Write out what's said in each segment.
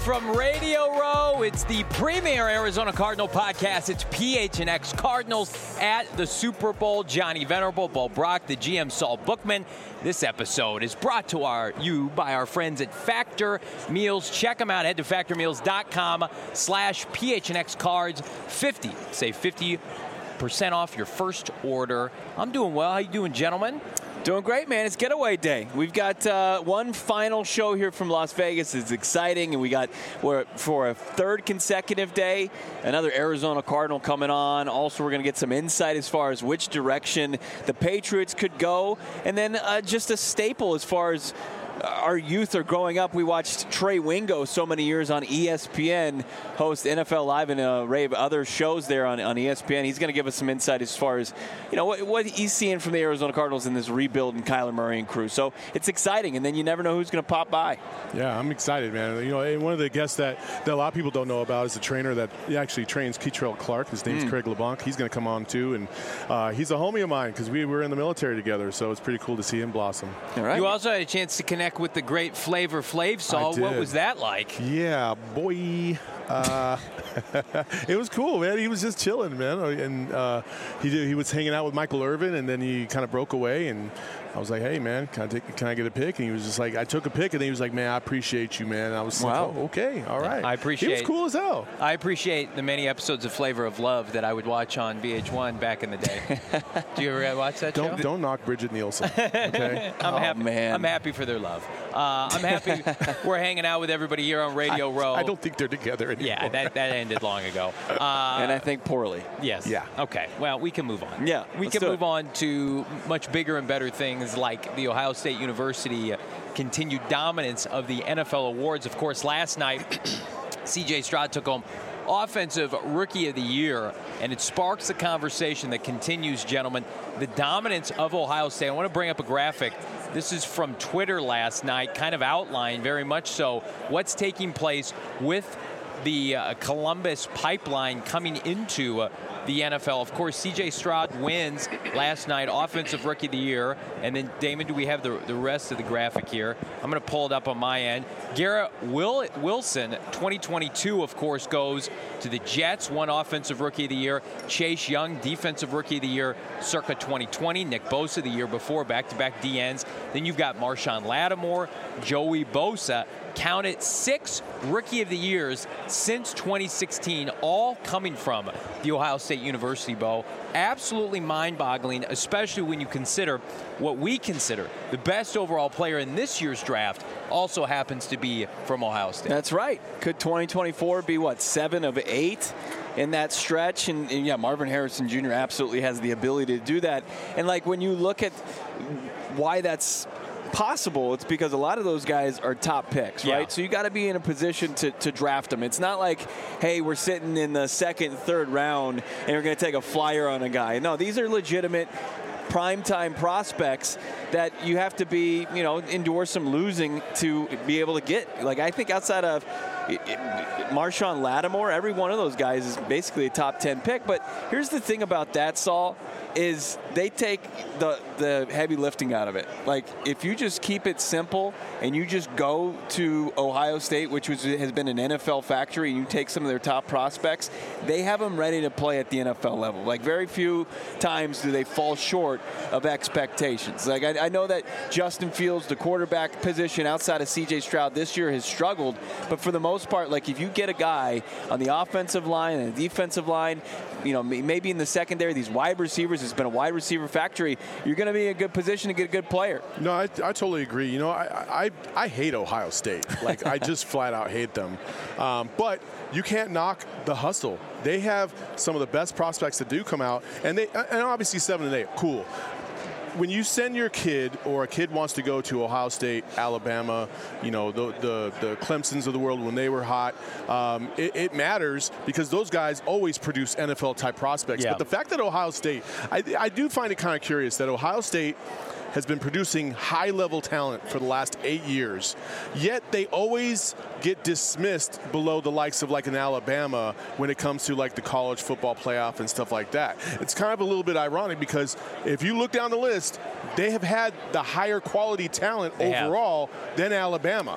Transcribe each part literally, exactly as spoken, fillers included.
from Radio Row. It's the premier Arizona Cardinal podcast. It's P H N X Cardinals at the Super Bowl. Johnny Venerable, Bo Brock, the G M Saul Bookman. This episode is brought to our you by our friends at Factor Meals. Check them out. Head to factor meals dot com slash P H N X cards. fifty. Save fifty percent off your first order. I'm doing well. How you doing, gentlemen? Doing great, man. It's getaway day. We've got uh, one final show here from Las Vegas. It's exciting, and we got we're, for a third consecutive day, another Arizona Cardinal coming on. Also, we're going to get some insight as far as which direction the Patriots could go, and then uh, just a staple as far as our youth are growing up. We watched Trey Wingo so many years on E S P N host N F L Live and a array of other shows there on, on E S P N. He's going to give us some insight as far as, you know, what, what he's seeing from the Arizona Cardinals in this rebuild and Kyler Murray and crew. So it's exciting, and then you never know who's going to pop by. Yeah, I'm excited, man. You know, and one of the guests that, that a lot of people don't know about is the trainer that actually trains Keitrell Clark. His name's mm. Craig LeBlanc. He's going to come on, too, and uh, he's a homie of mine because we were in the military together, so it's pretty cool to see him blossom. All right. You also had a chance to connect with the great Flavor Flav, Saul. What was that like? Yeah, boy. Uh, it was cool, man. He was just chilling, man. And uh, he did, he was hanging out with Michael Irvin, and then he kind of broke away. And I was like, "Hey, man, can I take, can I get a pic?" And he was just like, "I took a pic," and then he was like, "Man, I appreciate you, man." And I was wow. like, oh, "Okay, all right." I appreciate. He was cool as hell. I appreciate the many episodes of Flavor of Love that I would watch on V H one back in the day. Do you ever watch that don't, show? Don't knock Bridget Nielsen. Okay. I'm oh, happy. Man. I'm happy for their love. Uh, I'm happy we're hanging out with everybody here on Radio I, Row. I don't think they're together anymore. Yeah, that, that ended long ago. Uh, and I think poorly. Yes. Yeah. Okay. Well, we can move on. Yeah. We can do move it. on to much bigger and better things like the Ohio State University continued dominance of the N F L awards. Of course, last night, C J Stroud took home Offensive Rookie of the Year, and it sparks a conversation that continues, gentlemen. The dominance of Ohio State. I want to bring up a graphic. This is from Twitter last night, kind of outlined very much so what's taking place with the uh, Columbus pipeline coming into uh, the N F L. Of course, C J Stroud wins last night, Offensive Rookie of the Year. And then, Damon, do we have the, the rest of the graphic here? I'm going to pull it up on my end. Garrett Will, Wilson, twenty twenty-two, of course, goes to the Jets, won Offensive Rookie of the Year. Chase Young, Defensive Rookie of the Year, circa twenty twenty. Nick Bosa the year before, back-to-back D Ns. Then you've got Marshawn Lattimore, Joey Bosa. Counted six Rookie of the Years since twenty sixteen, all coming from the Ohio State University, Bo. Absolutely mind-boggling, especially when you consider what we consider the best overall player in this year's draft also happens to be from Ohio State. That's right. Could twenty twenty-four be, what, seven of eight in that stretch? And, and yeah, Marvin Harrison Junior absolutely has the ability to do that. And, like, when you look at why that's possible, it's because a lot of those guys are top picks, right? Yeah. So you got to be in a position to, to draft them. It's not like, hey, we're sitting in the second, third round and we're going to take a flyer on a guy. No, these are legitimate primetime prospects that you have to be, you know, endure some losing to be able to get. Like, I think outside of Marshawn Lattimore, every one of those guys is basically a top ten pick. But here's the thing about that, Saul, is they take the the heavy lifting out of it. Like, if you just keep it simple and you just go to Ohio State, which was, has been an N F L factory, and you take some of their top prospects, they have them ready to play at the N F L level. Like, very few times do they fall short of expectations. Like, I, I know that Justin Fields, the quarterback position outside of C J Stroud this year, has struggled, but for the most part, like, if you get a guy on the offensive line and the defensive line, you know, maybe in the secondary, these wide receivers, it's been a wide receiver factory, you're going to be in a good position to get a good player. No, I, I totally agree. You know, I, I I hate Ohio State. Like, I just flat out hate them. Um, but you can't knock the hustle. They have some of the best prospects that do come out, and they and obviously seven and eight, cool. When you send your kid, or a kid wants to go to Ohio State, Alabama, you know, the the, the Clemsons of the world when they were hot, um, it, it matters because those guys always produce N F L-type prospects. Yeah. But the fact that Ohio State, I, I do find it kind of curious that Ohio State has been producing high-level talent for the last eight years, yet they always get dismissed below the likes of like an Alabama when it comes to like the college football playoff and stuff like that. It's kind of a little bit ironic because if you look down the list, they have had the higher quality talent they overall have. than Alabama.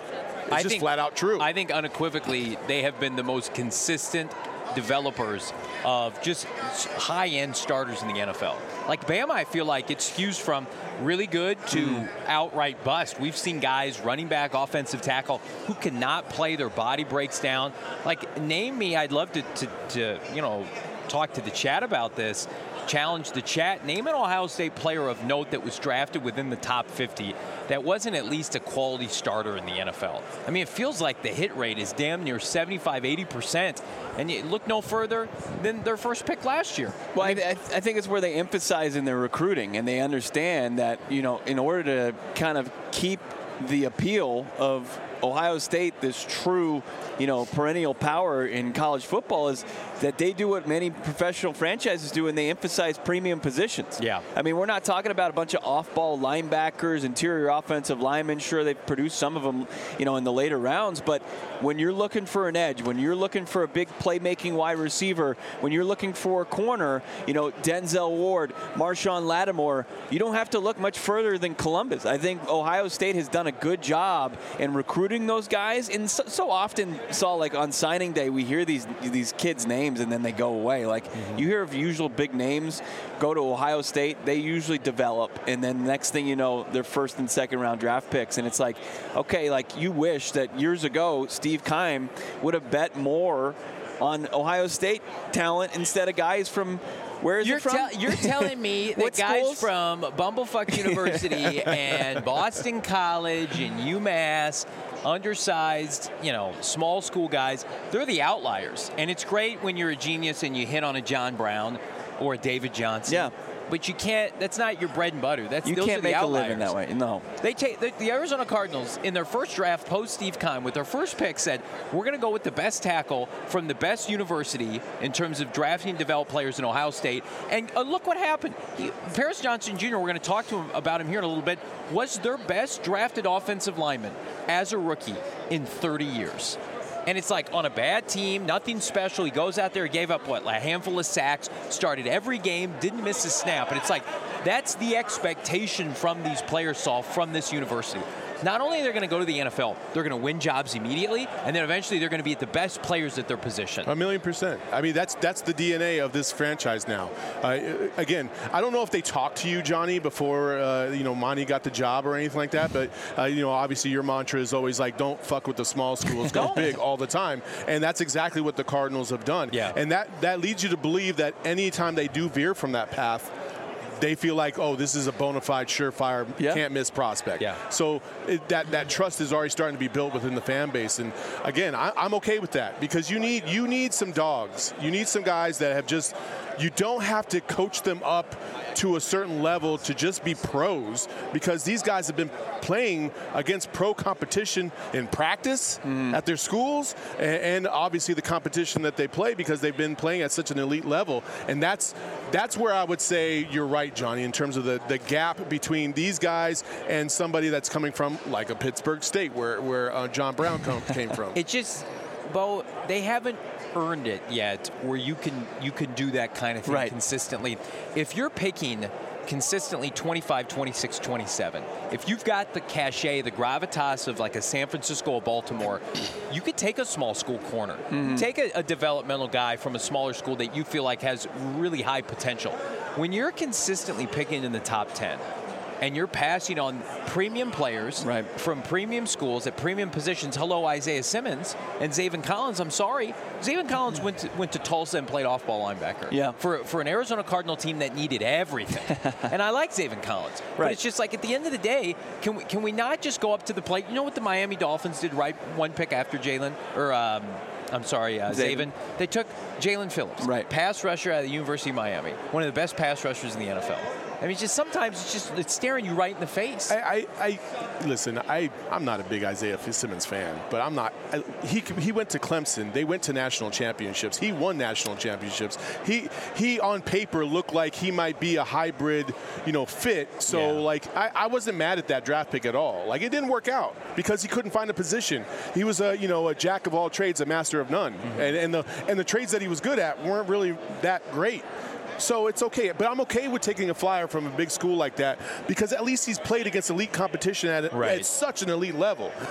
It's I just think, flat out true. I think unequivocally they have been the most consistent developers of just high-end starters in the N F L. Like Bama, I feel like it skews from really good to mm. outright bust. We've seen guys, running back, offensive tackle, who cannot play. Their body breaks down. Like, name me, I'd love to, to, to you know, talk to the chat about this, challenge the chat. Name an Ohio State player of note that was drafted within the top fifty that wasn't at least a quality starter in the N F L. I mean, it feels like the hit rate is damn near seventy-five, eighty percent. And you look no further than their first pick last year. Well, I, I, th- I think it's where they emphasize in their recruiting, and they understand that, you know, in order to kind of keep the appeal of Ohio State, this true, you know, perennial power in college football, is that they do what many professional franchises do, and they emphasize premium positions. Yeah. I mean, we're not talking about a bunch of off-ball linebackers, interior offensive linemen. Sure, they've produced some of them, you know, in the later rounds, but when you're looking for an edge, when you're looking for a big playmaking wide receiver, when you're looking for a corner, you know, Denzel Ward, Marshawn Lattimore, you don't have to look much further than Columbus. I think Ohio State has done a good job in recruiting those guys, and so, so often saw, like, on signing day, we hear these these kids' names and then they go away. Like, mm-hmm. you hear of usual big names go to Ohio State, they usually develop, and then next thing you know, they're first and second round draft picks, and it's like, okay, like, you wish that years ago Steve Keim would have bet more on Ohio State talent instead of guys from, where is you're it from? Te- you're telling me that guys schools? from Bumblefuck University and Boston College and UMass, undersized, you know, small school guys, they're the outliers. And it's great when you're a genius and you hit on a John Brown or a David Johnson. Yeah. But you can't, that's not your bread and butter. That's, you those can't are the make outliers. a living that way. No. They take the, the Arizona Cardinals in their first draft post Steve Keim with their first pick said, we're going to go with the best tackle from the best university in terms of drafting and develop players in Ohio State. And uh, look what happened. He, Paris Johnson Junior, we're going to talk to him about him here in a little bit, was their best drafted offensive lineman as a rookie in thirty years. And it's like on a bad team, nothing special. He goes out there, he gave up, what, a handful of sacks, started every game, didn't miss a snap. And it's like, that's the expectation from these players, Saul, from this university. Not only are they going to go to the N F L, they're going to win jobs immediately, and then eventually they're going to be the best players at their position. A million percent. I mean, that's that's the D N A of this franchise now. Uh, again, I don't know if they talked to you, Johnny, before uh, you know Monty got the job or anything like that, but uh, you know, obviously your mantra is always like, don't fuck with the small schools, go big all the time, and that's exactly what the Cardinals have done. Yeah. And that that leads you to believe that anytime they do veer from that path, they feel like, oh, this is a bona fide, surefire, yeah. can't miss prospect. Yeah. So it, that that trust is already starting to be built within the fan base. And again, I, I'm okay with that because you need you need some dogs. You need some guys that have just. You don't have to coach them up to a certain level to just be pros because these guys have been playing against pro competition in practice mm. at their schools and, and obviously the competition that they play because they've been playing at such an elite level. And that's that's where I would say you're right, Johnny, in terms of the, the gap between these guys and somebody that's coming from like a Pittsburgh State where, where uh, John Brown come, came from. It just, Bo, they haven't earned it yet where you can you can do that kind of thing right. consistently. If you're picking consistently twenty-five, twenty-six, twenty-seven, if you've got the cachet, the gravitas of like a San Francisco or Baltimore, you could take a small school corner. Mm-hmm. Take a, a developmental guy from a smaller school that you feel like has really high potential. When you're consistently picking in the top ten, and you're passing on premium players right. from premium schools at premium positions. Hello, Isaiah Simmons and Zaven Collins. I'm sorry. Zaven Collins went to, went to Tulsa and played off-ball linebacker yeah. for, for an Arizona Cardinal team that needed everything. And I like Zaven Collins. Right. But it's just like at the end of the day, can we, can we not just go up to the plate? You know what the Miami Dolphins did right one pick after Jalen? Or um, I'm sorry, uh, Zaven. They took Jalen Phillips, right. pass rusher out of the University of Miami, one of the best pass rushers in the N F L. I mean, just sometimes it's just it's staring you right in the face. I, I, I listen. I I'm not a big Isaiah Simmons fan, but I'm not. I, he he went to Clemson. They went to national championships. He won national championships. He he on paper looked like he might be a hybrid, you know, fit. So yeah. like I, I wasn't mad at that draft pick at all. Like it didn't work out because he couldn't find a position. He was a you know a jack of all trades, a master of none, mm-hmm. and and the and the trades that he was good at weren't really that great. So it's okay, but I'm okay with taking a flyer from a big school like that because at least he's played against elite competition at, right. at such an elite level.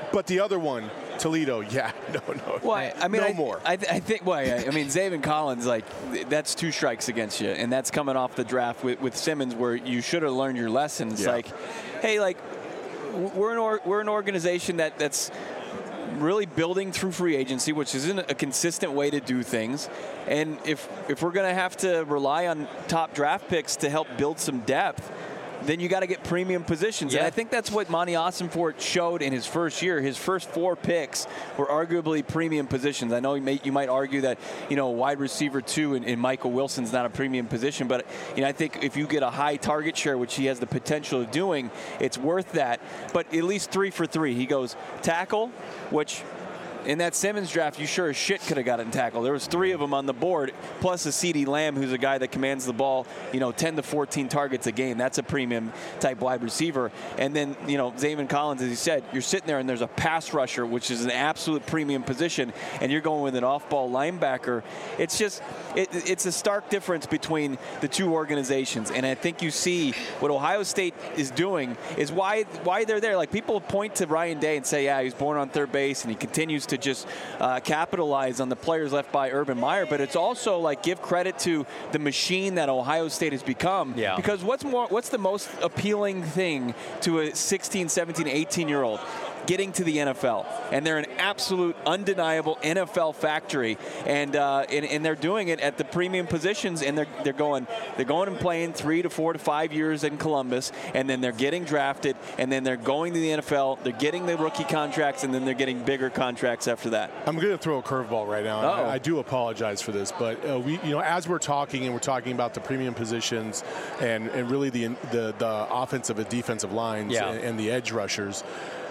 But the other one, Toledo, yeah, no, no. Well, I, I mean, no I, more. I, I think. Well, I, I mean, Zaven Collins, like that's two strikes against you, and that's coming off the draft with, with Simmons, where you should have learned your lessons. Yeah. Like, hey, like we're an or, we're an organization that that's really building through free agency, which isn't a consistent way to do things. And if if we're going to have to rely on top draft picks to help build some depth, then you got to get premium positions. Yeah. And I think that's what Monty Ossenfort showed in his first year. His first four picks were arguably premium positions. I know you, may, you might argue that, you know, wide receiver two and, and Michael Wilson's not a premium position, but, you know, I think if you get a high target share, which he has the potential of doing, it's worth that. But at least three for three. He goes tackle, which in that Simmons draft, you sure as shit could have gotten tackle. There was three of them on the board, plus a CeeDee Lamb, who's a guy that commands the ball, you know, ten to fourteen targets a game. That's a premium type wide receiver. And then, you know, Zaven Collins, as you said, you're sitting there and there's a pass rusher, which is an absolute premium position, and you're going with an off-ball linebacker. It's just, it, it's a stark difference between the two organizations. And I think you see what Ohio State is doing is why why they're there. Like, people point to Ryan Day and say, yeah, he was born on third base and he continues to just uh, capitalize on the players left by Urban Meyer, but it's also like give credit to the machine that Ohio State has become. Yeah. Because what's more, what's the most appealing thing to a sixteen, seventeen, eighteen year old? Getting to the N F L, and they're an absolute, undeniable N F L factory, and uh, and, and they're doing it at the premium positions, and they're they're going they're going and playing three to four to five years in Columbus, and then they're getting drafted, and then they're going to the N F L, they're getting the rookie contracts, and then they're getting bigger contracts after that. I'm going to throw a curveball right now. Uh-oh. I, I do apologize for this, but uh, we, you know, as we're talking and we're talking about the premium positions and, and really the, the the offensive and defensive lines Yeah. and, and the edge rushers.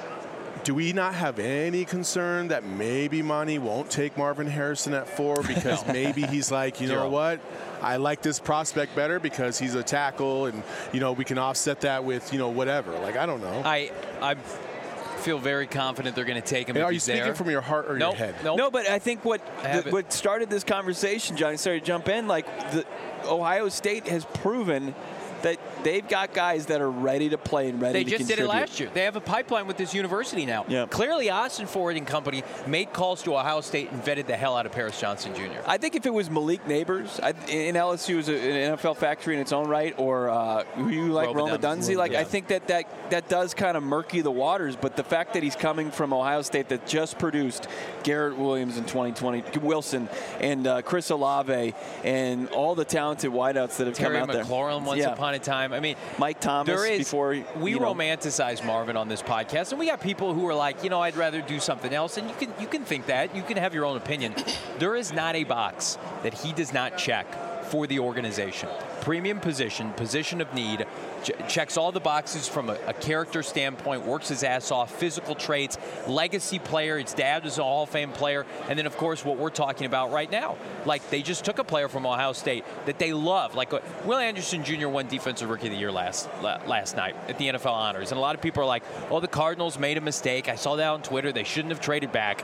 Do we not have any concern that maybe Monty won't take Marvin Harrison at four because maybe he's like, you know Zero. what, I like this prospect better because he's a tackle, and you know we can offset that with you know whatever. Like, I don't know. I I feel very confident they're going to take him. Hey, if are you he's speaking there. from your heart or Nope, your head? Nope. No, but I think what I have the, it. what started this conversation, Johnny, sorry to jump in, like the Ohio State has proven that they've got guys that are ready to play and ready They to just did contribute. it last year. They have a pipeline with this university now. Yeah. Clearly, Austin Ford and company made calls to Ohio State and vetted the hell out of Paris Johnson Junior I think if it was Malik Neighbors I, in L S U is an N F L factory in its own right, or uh, who you like, Roma Roma Dunze. Dunze, like Yeah. I think that, that that does kind of murky the waters. But the fact that he's coming from Ohio State that just produced Garrett Williams in twenty twenty, Wilson and uh, Chris Olave and all the talented wideouts that have Terry come out McLaurin there. once Yeah. upon a time. I mean, Mike Thomas there is, before we you know, romanticize Marvin on this podcast, and we got people who are like, you know, I'd rather do something else, and you can you can think that, you can have your own opinion. There is not a box that he does not check for the organization. Premium position, position of need, ch- checks all the boxes from a, a character standpoint, works his ass off, physical traits, legacy player. His dad was a Hall of Fame player. And then, of course, what we're talking about right now. Like, they just took a player from Ohio State that they love. Like, uh, Will Anderson Junior won Defensive Rookie of the Year last la- last night at the N F L Honors. And a lot of people are like, oh, the Cardinals made a mistake. I saw that on Twitter. They shouldn't have traded back.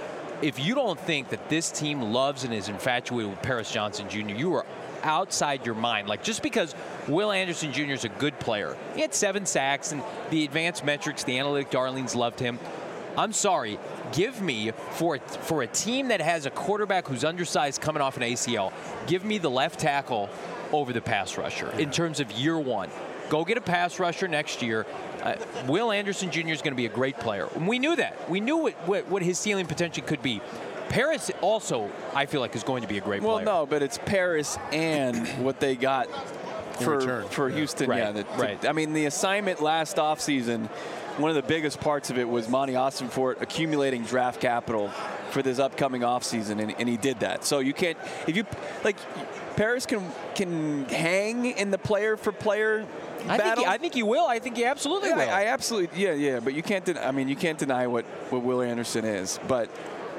If you don't think that this team loves and is infatuated with Paris Johnson Junior, you are outside your mind. Like, just because Will Anderson Junior is a good player, he had seven sacks, and the advanced metrics, the analytic darlings loved him. I'm sorry. Give me, for, for a team that has a quarterback who's undersized coming off an A C L, give me the left tackle over the pass rusher in terms of year one. Go get a pass rusher next year. Uh, Will Anderson Junior is going to be a great player. And we knew that. We knew what, what, what his ceiling potentially could be. Paris also, I feel like, is going to be a great well, player. no, but it's Paris and what they got for return. for Yeah. Houston. Right, Yeah, the, right. I mean, the assignment last offseason, one of the biggest parts of it was Monty Ossenfort accumulating draft capital for this upcoming offseason, and, and he did that. So you can't, if you, like, Paris can can hang in the player for player I think, battle. he, I think he will. I think he absolutely Yeah, will. I, I absolutely, yeah, yeah. But you can't. Den- I mean, you can't deny what, what Will Anderson is. But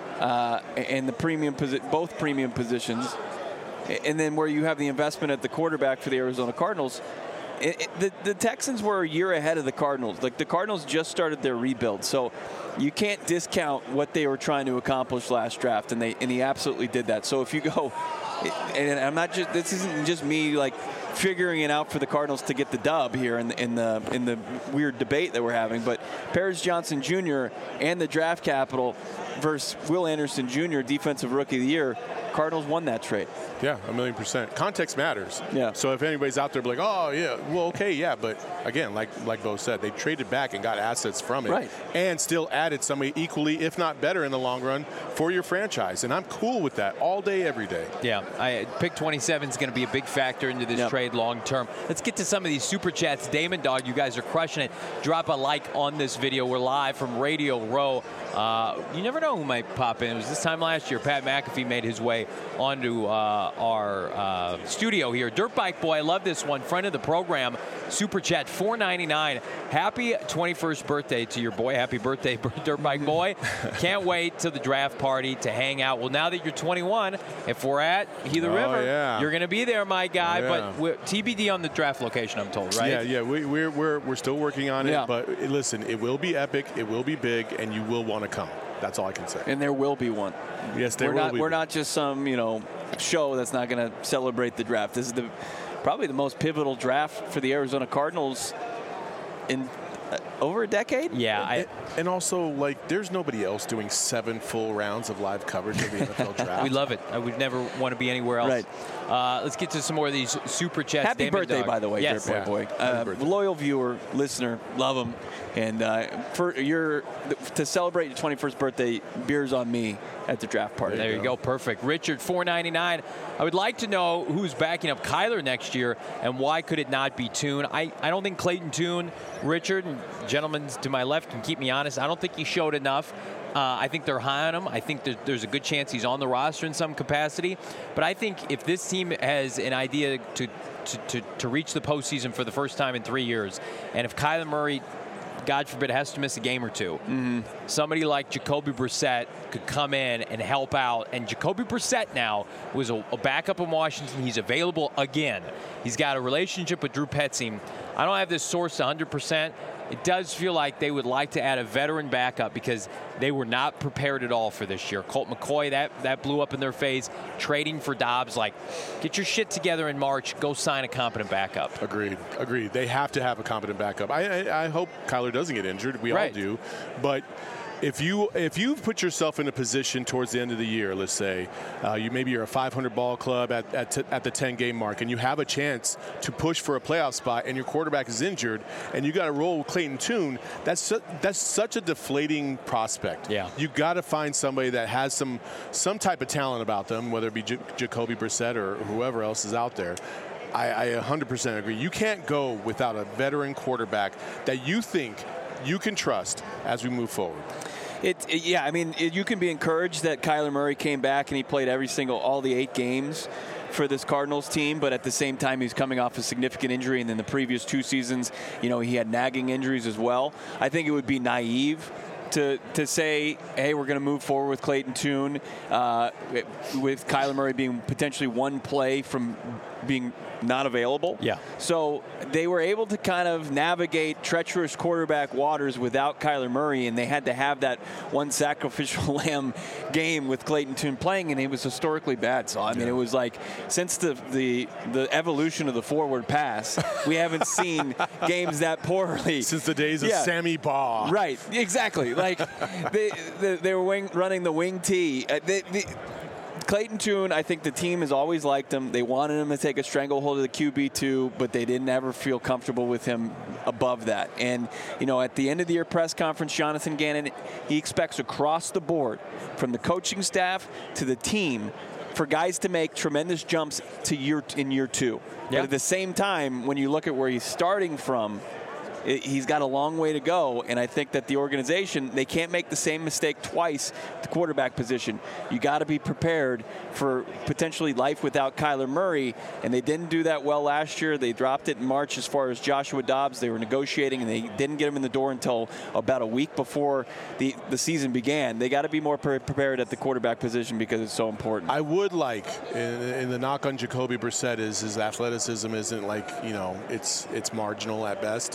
uh, and the premium posi- both premium positions, and then where you have the investment at the quarterback for the Arizona Cardinals. It, it, the, the Texans were a year ahead of the Cardinals. Like, the Cardinals just started their rebuild. So you can't discount what they were trying to accomplish last draft, and they and he absolutely did that. So if you go, and I'm not just this isn't just me like figuring it out for the Cardinals to get the dub here in the in the in the weird debate that we're having, but Paris Johnson Junior and the draft capital versus Will Anderson Junior, Defensive Rookie of the Year. Cardinals won that trade. Yeah, a million percent. Context matters. Yeah. So if anybody's out there like, oh, yeah, well, okay, yeah. But, again, like like Bo said, they traded back and got assets from it. Right. And still added somebody equally, if not better in the long run, for your franchise. And I'm cool with that all day, every day. Yeah. I, pick twenty-seven is going to be a big factor into this yep. trade long term. Let's get to some of these Super Chats. Damon Dog, you guys are crushing it. Drop a like on this video. We're live from Radio Row. Uh, you never know who might pop in. It was this time last year. Pat McAfee made his way onto uh, our uh, studio here. Dirt Bike Boy, I love this one. Friend of the program, Super Chat four ninety-nine. Happy twenty-first birthday to your boy. Happy birthday, Dirt Bike Boy. Can't wait till the draft party to hang out. Well, now that you're twenty-one, if we're at Gila oh, River, yeah. you're going to be there, my guy. Oh, yeah. But we're, T B D on the draft location, I'm told, right? Yeah, yeah. We, we're, we're, we're still working on it. Yeah. But listen, it will be epic. It will be big. And you will want to come. That's all I can say. And there will be one. Yes, there we're will not, be. We're not just some, you know, show that's not going to celebrate the draft. This is the probably the most pivotal draft for the Arizona Cardinals in uh, over a decade. Yeah. I, and, and also, like, there's nobody else doing seven full rounds of live coverage of the N F L draft. we love it. I would never want to be anywhere else. Right. Uh, let's get to some more of these Super Chats. Happy Damon birthday, Dog. by the way, yes. Dirt Boy. Yeah. Uh, Happy birthday. loyal viewer, listener, love him. And uh, for your to celebrate your twenty-first birthday, beers on me at the draft party. There you go. Perfect. Richard, four ninety-nine. I would like to know who's backing up Kyler next year and why could it not be Tune? I, I don't think Clayton Tune, Richard, and gentlemen to my left can keep me honest. I don't think he showed enough. Uh, I think they're high on him. I think there, there's a good chance he's on the roster in some capacity. But I think if this team has an idea to, to, to, to reach the postseason for the first time in three years, and if Kyler Murray, God forbid, has to miss a game or two, Mm-hmm. somebody like Jacoby Brissett could come in and help out. And Jacoby Brissett now was a, a backup in Washington. He's available again. He's got a relationship with Drew Petzing. I don't have this sourced one hundred percent. It does feel like they would like to add a veteran backup because they were not prepared at all for this year. Colt McCoy, that, that blew up in their face. Trading for Dobbs, like, get your shit together in March. Go sign a competent backup. Agreed. Agreed. They have to have a competent backup. I, I, I hope Kyler doesn't get injured. We Right. all do. But if you if you've put yourself in a position towards the end of the year, let's say, uh, you maybe you're a five hundred ball club at at, t- at the ten game mark, and you have a chance to push for a playoff spot, and your quarterback is injured, and you got to roll with Clayton Tune. That's su- that's such a deflating prospect. Yeah. You got to find somebody that has some some type of talent about them, whether it be J- Jacoby Brissett or whoever else is out there. I, I one hundred percent agree. You can't go without a veteran quarterback that you think you can trust as we move forward. It, it, yeah, I mean, it, you can be encouraged that Kyler Murray came back and he played every single, all the eight games for this Cardinals team, but at the same time, he's coming off a significant injury, and in the previous two seasons, you know, he had nagging injuries as well. I think it would be naive to to say, hey, we're going to move forward with Clayton Tune, uh, with Kyler Murray being potentially one play from being not available. Yeah. So they were able to kind of navigate treacherous quarterback waters without Kyler Murray, and they had to have that one sacrificial lamb game with Clayton Tune playing, and it was historically bad. So I mean, Yeah. it was like since the the the evolution of the forward pass, we haven't seen games that poorly Since the days of Yeah. Sammy Baugh. Right, exactly. Like they, they they were wing, running the wing tee. Uh, they, they, Clayton Tune, I think the team has always liked him. They wanted him to take a stranglehold of the Q B two, but they didn't ever feel comfortable with him above that. And, you know, at the end of the year press conference, Jonathan Gannon, he expects across the board, from the coaching staff to the team, for guys to make tremendous jumps to year in year two. Yeah. But at the same time, when you look at where he's starting from, it, he's got a long way to go, and I think that the organization, they can't make the same mistake twice at the quarterback position. You got to be prepared for potentially life without Kyler Murray, and they didn't do that well last year. They dropped it in March as far as Joshua Dobbs. They were negotiating, and they didn't get him in the door until about a week before the, the season began. They got to be more pre- prepared at the quarterback position because it's so important. I would like, in, in the knock on Jacoby Brissett is his athleticism isn't like, you know, it's it's marginal at best. Yeah.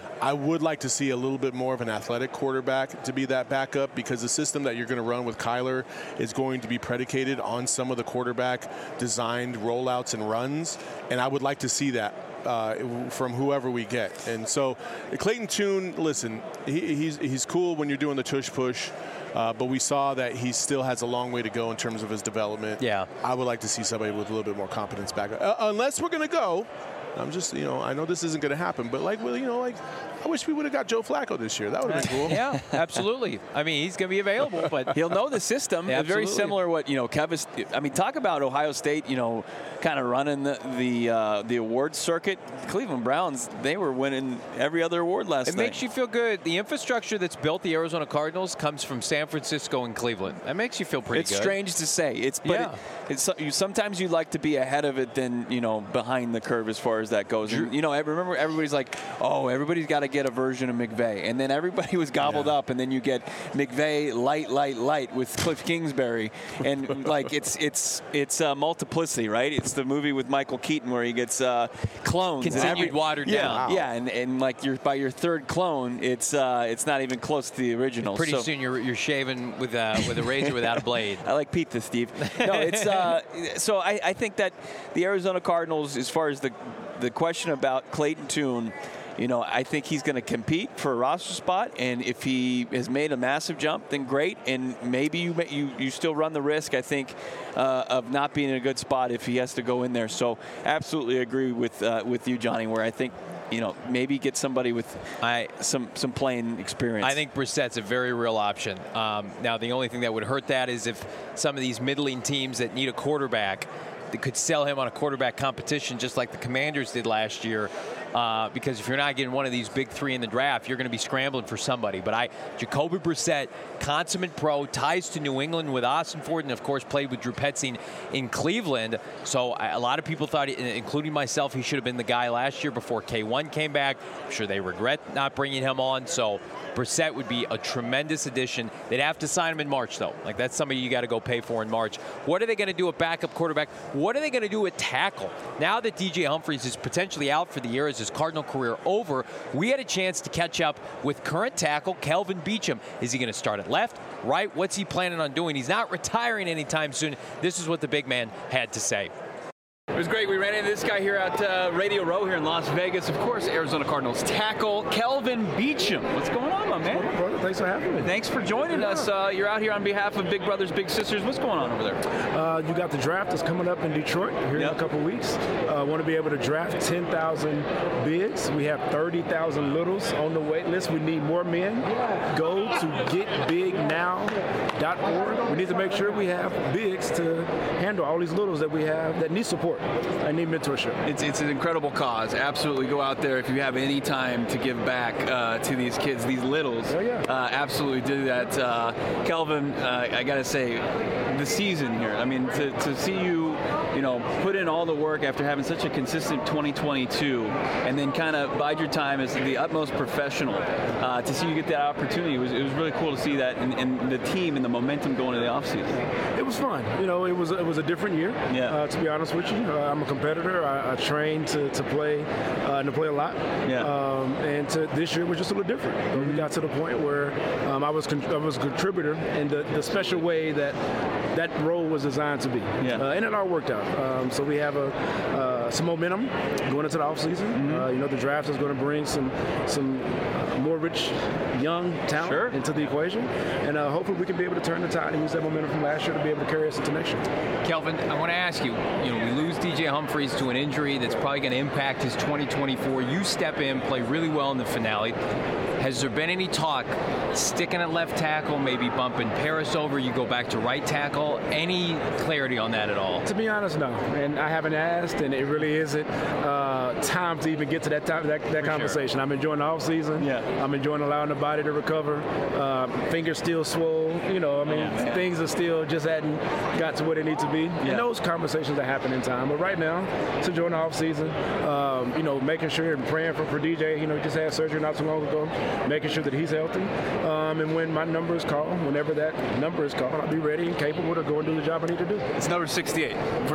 I would like to see a little bit more of an athletic quarterback to be that backup, because the system that you're going to run with Kyler is going to be predicated on some of the quarterback designed rollouts and runs, and I would like to see that uh, from whoever we get. And so Clayton Tune, listen, he, he's, he's cool when you're doing the tush push. Uh, but we saw that he still has a long way to go in terms of his development. Yeah. I would like to see somebody with a little bit more competence back. Uh, unless we're going to go, I'm just, you know, I know this isn't going to happen, but like, well, you know, like, I wish we would have got Joe Flacco this year. That would have been cool. Yeah, absolutely. I mean, he's going to be available, but he'll know the system. Yeah, very similar what, you know, Kevin, I mean, talk about Ohio State, you know, kind of running the the, uh, the awards circuit. Cleveland Browns, they were winning every other award last it night. It makes you feel good. The infrastructure that's built the Arizona Cardinals comes from San Francisco and Cleveland. That makes you feel pretty it's good. It's strange to say. It's but yeah. it, it's you, sometimes you like to be ahead of it than, you know, behind the curve as far as that goes. And, you know, I remember everybody's like, oh, everybody's got to get a version of McVay, and then everybody was gobbled yeah. up, and then you get McVay light, light, light with Cliff Kingsbury, and like it's it's it's uh, multiplicity, right? It's the movie with Michael Keaton where he gets uh, clones, continued and every, watered yeah, down. Yeah, and, and like you're by your third clone, it's uh, it's not even close to the original. Pretty so. soon you're you're shaving with a with a razor without a blade. I like pizza, Steve. No, it's uh, so I, I think that the Arizona Cardinals, as far as the the question about Clayton Tune, you know, I think he's going to compete for a roster spot, and if he has made a massive jump, then great. And maybe you you, you still run the risk, I think, uh, of not being in a good spot if he has to go in there. So, absolutely agree with uh, with you, Johnny, where I think, you know, maybe get somebody with I, some some playing experience. I think Brissett's a very real option. Um, now, the only thing that would hurt that is if some of these middling teams that need a quarterback, that could sell him on a quarterback competition just like the Commanders did last year. Uh, because if you're not getting one of these big three in the draft, you're going to be scrambling for somebody. But I, Jacoby Brissett, consummate pro, ties to New England with Austin Ford, and of course played with Drew Petzing in Cleveland. So I, a lot of people thought, including myself, he should have been the guy last year before K one came back. I'm sure they regret not bringing him on. So Brissett would be a tremendous addition. They'd have to sign him in March, though. Like, that's somebody you got to go pay for in March. What are they going to do at backup quarterback? What are they going to do at tackle? Now that D J Humphries is potentially out for the year, is his Cardinal career over, we had a chance to catch up with current tackle Kelvin Beachum. Is he going to start at left, right? What's he planning on doing? He's not retiring anytime soon. This is what the big man had to say. It was great. We ran into this guy here at uh, Radio Row here in Las Vegas. Of course, Arizona Cardinals tackle Kelvin Beachum. What's going on, my man? What's going on, brother? Thanks for having me. Thanks for joining yeah. us. Uh, you're out here on behalf of Big Brothers Big Sisters. What's going on over there? Uh, you got the draft that's coming up in Detroit here yep. in a couple weeks. I uh, want to be able to draft ten thousand bigs. We have thirty thousand littles on the wait list. We need more men. Go to get big now dot org. We need to make sure we have bigs to handle all these littles that we have that need support and need mentorship. It's it's an incredible cause. Absolutely, go out there if you have any time to give back uh, to these kids, these littles. Oh, yeah. uh, absolutely do that. Uh, Kelvin, uh, I gotta say, the season here. I mean, to, to see you, you know, put in all the work after having such a consistent twenty twenty-two, and then kind of bide your time as the utmost professional. Uh, to see you get that opportunity, it was it was really cool to see that, and, and the team and the momentum going into the offseason. It was fun. You know, it was it was a different year. Yeah. Uh, to be honest with you, uh, I'm a competitor. I, I trained to, to play uh, and to play a lot. Yeah. Um, and to, this year was just a little different. Mm-hmm. We got to the point where um, I was con- I was a contributor in the, the special way that that role was designed to be. Yeah. Uh, and it all worked out. Um, so we have a uh, some momentum going into the offseason. Mm-hmm. Uh, you know, the draft is going to bring some some uh, more rich young talent sure. into the equation, and uh, hopefully we can be able to turn the tide and use that momentum from last year to be able to carry us into next year. Kelvin, I want to ask you, you know, we lose D J Humphries to an injury that's probably going to impact his twenty twenty-four. You step in, play really well in the finale. Has there been any talk sticking at left tackle, maybe bumping Paris over, you go back to right tackle? Any clarity on that at all? To be honest, no. And I haven't asked, and it really isn't uh, time to even get to that time, that, that conversation. Sure. I'm enjoying the offseason. Yeah. I'm enjoying allowing the body to recover. Uh, fingers still swole. You know, I mean, yeah. things are still just hadn't got to where they need to be. Yeah. And those conversations are happening in time. But right now, it's enjoying the offseason. Um, you know, making sure and praying for, for D J. You know, he just had surgery not too long ago. Making sure that he's healthy. Um, and when my number is called, whenever that number is called, I'll be ready and capable to go and do the job I need to do. It's number sixty-eight for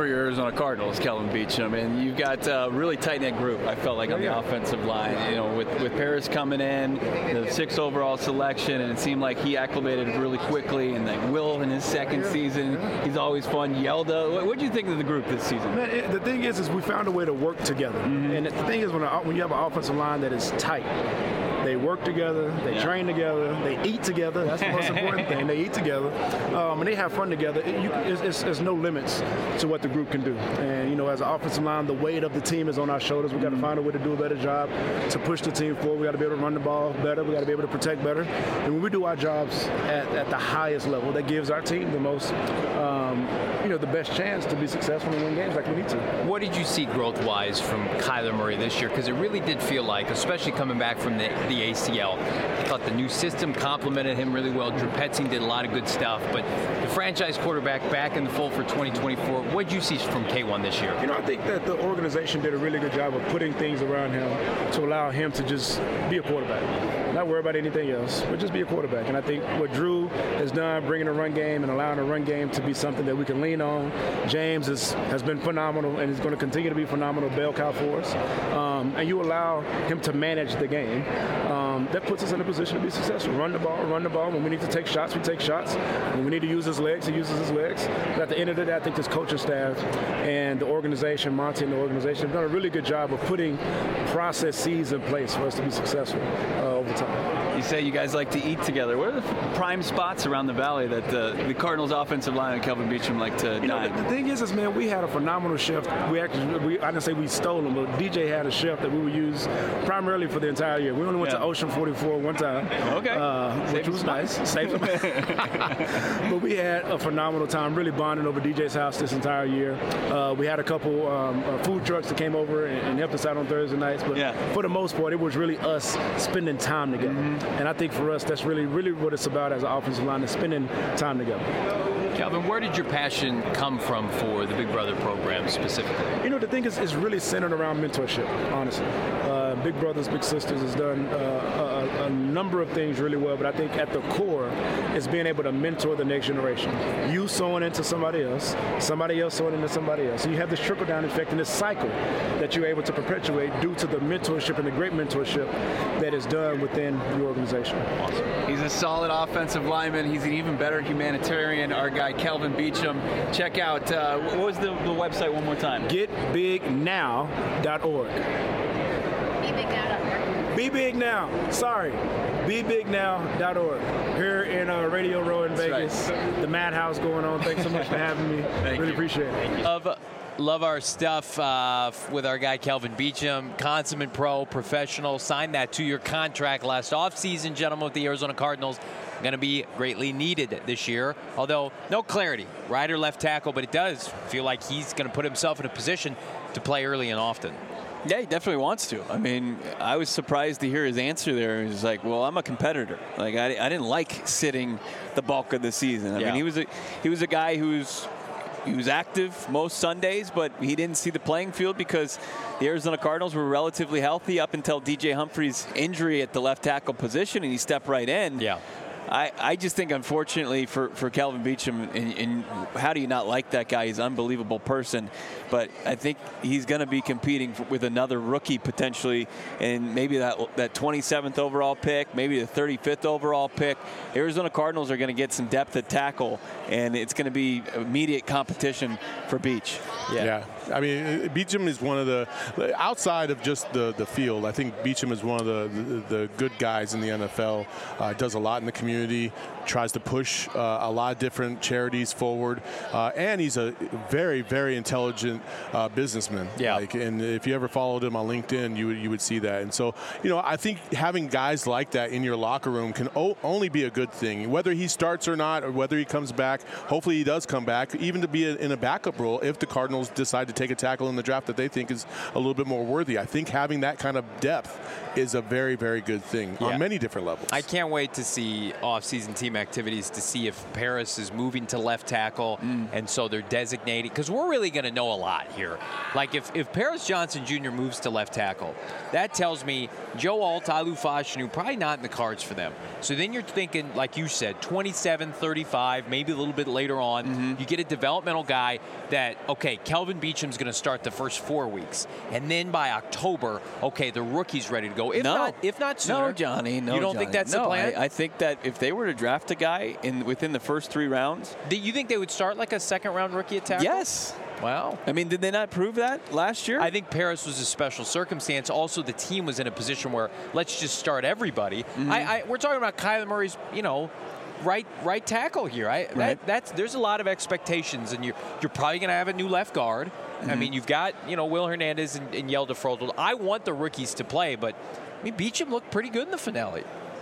for your Arizona Cardinals, Kelvin Beachum, and you've got a really tight-knit group, I felt like, on the offensive line. You know, with, with Paris coming in, the sixth overall selection, and it seemed like he acclimated really quickly, and like Will in his second season, he's always fun. Yelda, what what do you think of the group this season? Man, it, the thing is, is we found a way to work together. Mm-hmm. And the thing is, when, a, when you have an offensive line that is tight, they work together, they yeah. train together, they eat together. That's the most important thing. They eat together, um, and they have fun together. It, you, it's, it's, there's no limits to what the group can do. And, you know, as an offensive line, the weight of the team is on our shoulders. We've got to find a way to do a better job to push the team forward. We've got to be able to run the ball better. We've got to be able to protect better. And when we do our jobs at, at the highest level, that gives our team the most, um, you know, the best chance to be successful and win games like we need to. What did you see growth-wise from Kyler Murray this year? Because it really did feel like, especially coming back from the, the A C L, I thought the new system complemented him really well. Drew Petzing did a lot of good stuff, but the franchise quarterback back in the fold for twenty twenty-four, what did you see from K one this year? You know, I think that the organization did a really good job of putting things around him to allow him to just be a quarterback. Not worry about anything else, but just be a quarterback. And I think what Drew has done, bringing a run game and allowing a run game to be something that we can lean on. James is, has been phenomenal and is going to continue to be phenomenal bell cow for us. Um, and you allow him to manage the game. Um, that puts us in a position to be successful. Run the ball, run the ball. When we need to take shots, we take shots. When we need to use his legs, he uses his legs. But at the end of the day, I think this coaching staff and the organization, Monty and the organization, have done a really good job of putting processes in place for us to be successful uh, over time. You say you guys like to eat together. What are the prime spots around the valley that the, the Cardinals offensive line and Kelvin Beachum like to you dine? Know, the, the thing is, is, man, we had a phenomenal chef. We actually, we, I didn't say we stole him, but D J had a chef that we would use primarily for the entire year. We only went yeah. to Ocean forty-four one time. Okay. Uh, which was nice. Saved But we had a phenomenal time, really bonding over D J's house this entire year. Uh, we had a couple um, uh, food trucks that came over and, and helped us out on Thursday nights, but yeah. for the most part, it was really us spending time together. Mm-hmm. And I think for us, that's really, really what it's about as an offensive line, is spending time together. Calvin, where did your passion come from for the Big Brother program specifically? You know, the thing is, it's really centered around mentorship, honestly. Uh, Big Brothers Big Sisters has done uh, a, a number of things really well, but I think at the core is being able to mentor the next generation. You sowing into somebody else, somebody else sowing into somebody else. So you have this trickle-down effect in this cycle that you're able to perpetuate due to the mentorship and the great mentorship that is done within the organization. Awesome. He's a solid offensive lineman. He's an even better humanitarian. Our guy, Kelvin Beachum. Check out, uh, what was the, the website one more time? get big now dot org. Be Big Now dot org. Be Big Now. Sorry. be big now dot org. Here in uh, Radio Row in That's Vegas. Right. The Madhouse going on. Thanks so much for having me. Thank really you. appreciate it. Love, love our stuff uh, with our guy Kelvin Beachum, consummate pro, professional. Signed that two-year contract last offseason, gentlemen, with the Arizona Cardinals. Going to be greatly needed this year, although no clarity, right or left tackle, but it does feel like he's going to put himself in a position to play early and often. Yeah, he definitely wants to. I mean, I was surprised to hear his answer there. He was like, well, I'm a competitor. Like, I, I didn't like sitting the bulk of the season. I yeah. mean, he was a he was a guy who's he was active most Sundays, but he didn't see the playing field because the Arizona Cardinals were relatively healthy up until D J Humphries' injury at the left tackle position, and he stepped right in. Yeah. I, I just think, unfortunately, for, for Kelvin Beachum, and, and how do you not like that guy? He's an unbelievable person. But I think he's going to be competing for, with another rookie potentially, and maybe that that twenty-seventh overall pick, maybe the thirty-fifth overall pick. Arizona Cardinals are going to get some depth at tackle, and it's going to be immediate competition for Beach. Yeah. yeah. I mean, Beachum is one of the, outside of just the, the field, I think Beachum is one of the, the, the good guys in the N F L. Uh, does a lot in the community, tries to push uh, a lot of different charities forward, uh, and he's a very, very intelligent uh, businessman. Yeah. Like, and if you ever followed him on LinkedIn, you would, you would see that. And so, you know, I think having guys like that in your locker room can o- only be a good thing. Whether he starts or not, or whether he comes back, hopefully he does come back, even to be a, in a backup role if the Cardinals decide to take a tackle in the draft that they think is a little bit more worthy. I think having that kind of depth is a very, very good thing yeah. on many different levels. I can't wait to see off-season team pregame activities to see if Paris is moving to left tackle, Mm. and so they're designating, because we're really going to know a lot here. Like if, if Paris Johnson Junior moves to left tackle, that tells me Joe Alt, Alu Fashanu, probably not in the cards for them. So then you're thinking, like you said, twenty-seven, thirty-five, maybe a little bit later on, Mm-hmm. you get a developmental guy that, okay, Kelvin Beacham's going to start the first four weeks. And then by October, okay, the rookie's ready to go. If no. not, if not sooner. No, Johnny. No, You don't Johnny. think that's no, the plan? I, I think that if they were to draft a guy in within the first three rounds, Do you think they would start like a second-round rookie attacker? yes. Wow. I mean, did they not prove that last year? I think Paris was a special circumstance. Also, the team was in a position where let's just start everybody. Mm-hmm. I, I, we're talking about Kyler Murray's, you know, right right tackle here. I, Right. that, that's there's a lot of expectations, and you're you're probably going to have a new left guard. Mm-hmm. I mean, you've got you know Will Hernandez and, and Yelda Froldel. I want the rookies to play, but I mean Beacham looked pretty good in the finale.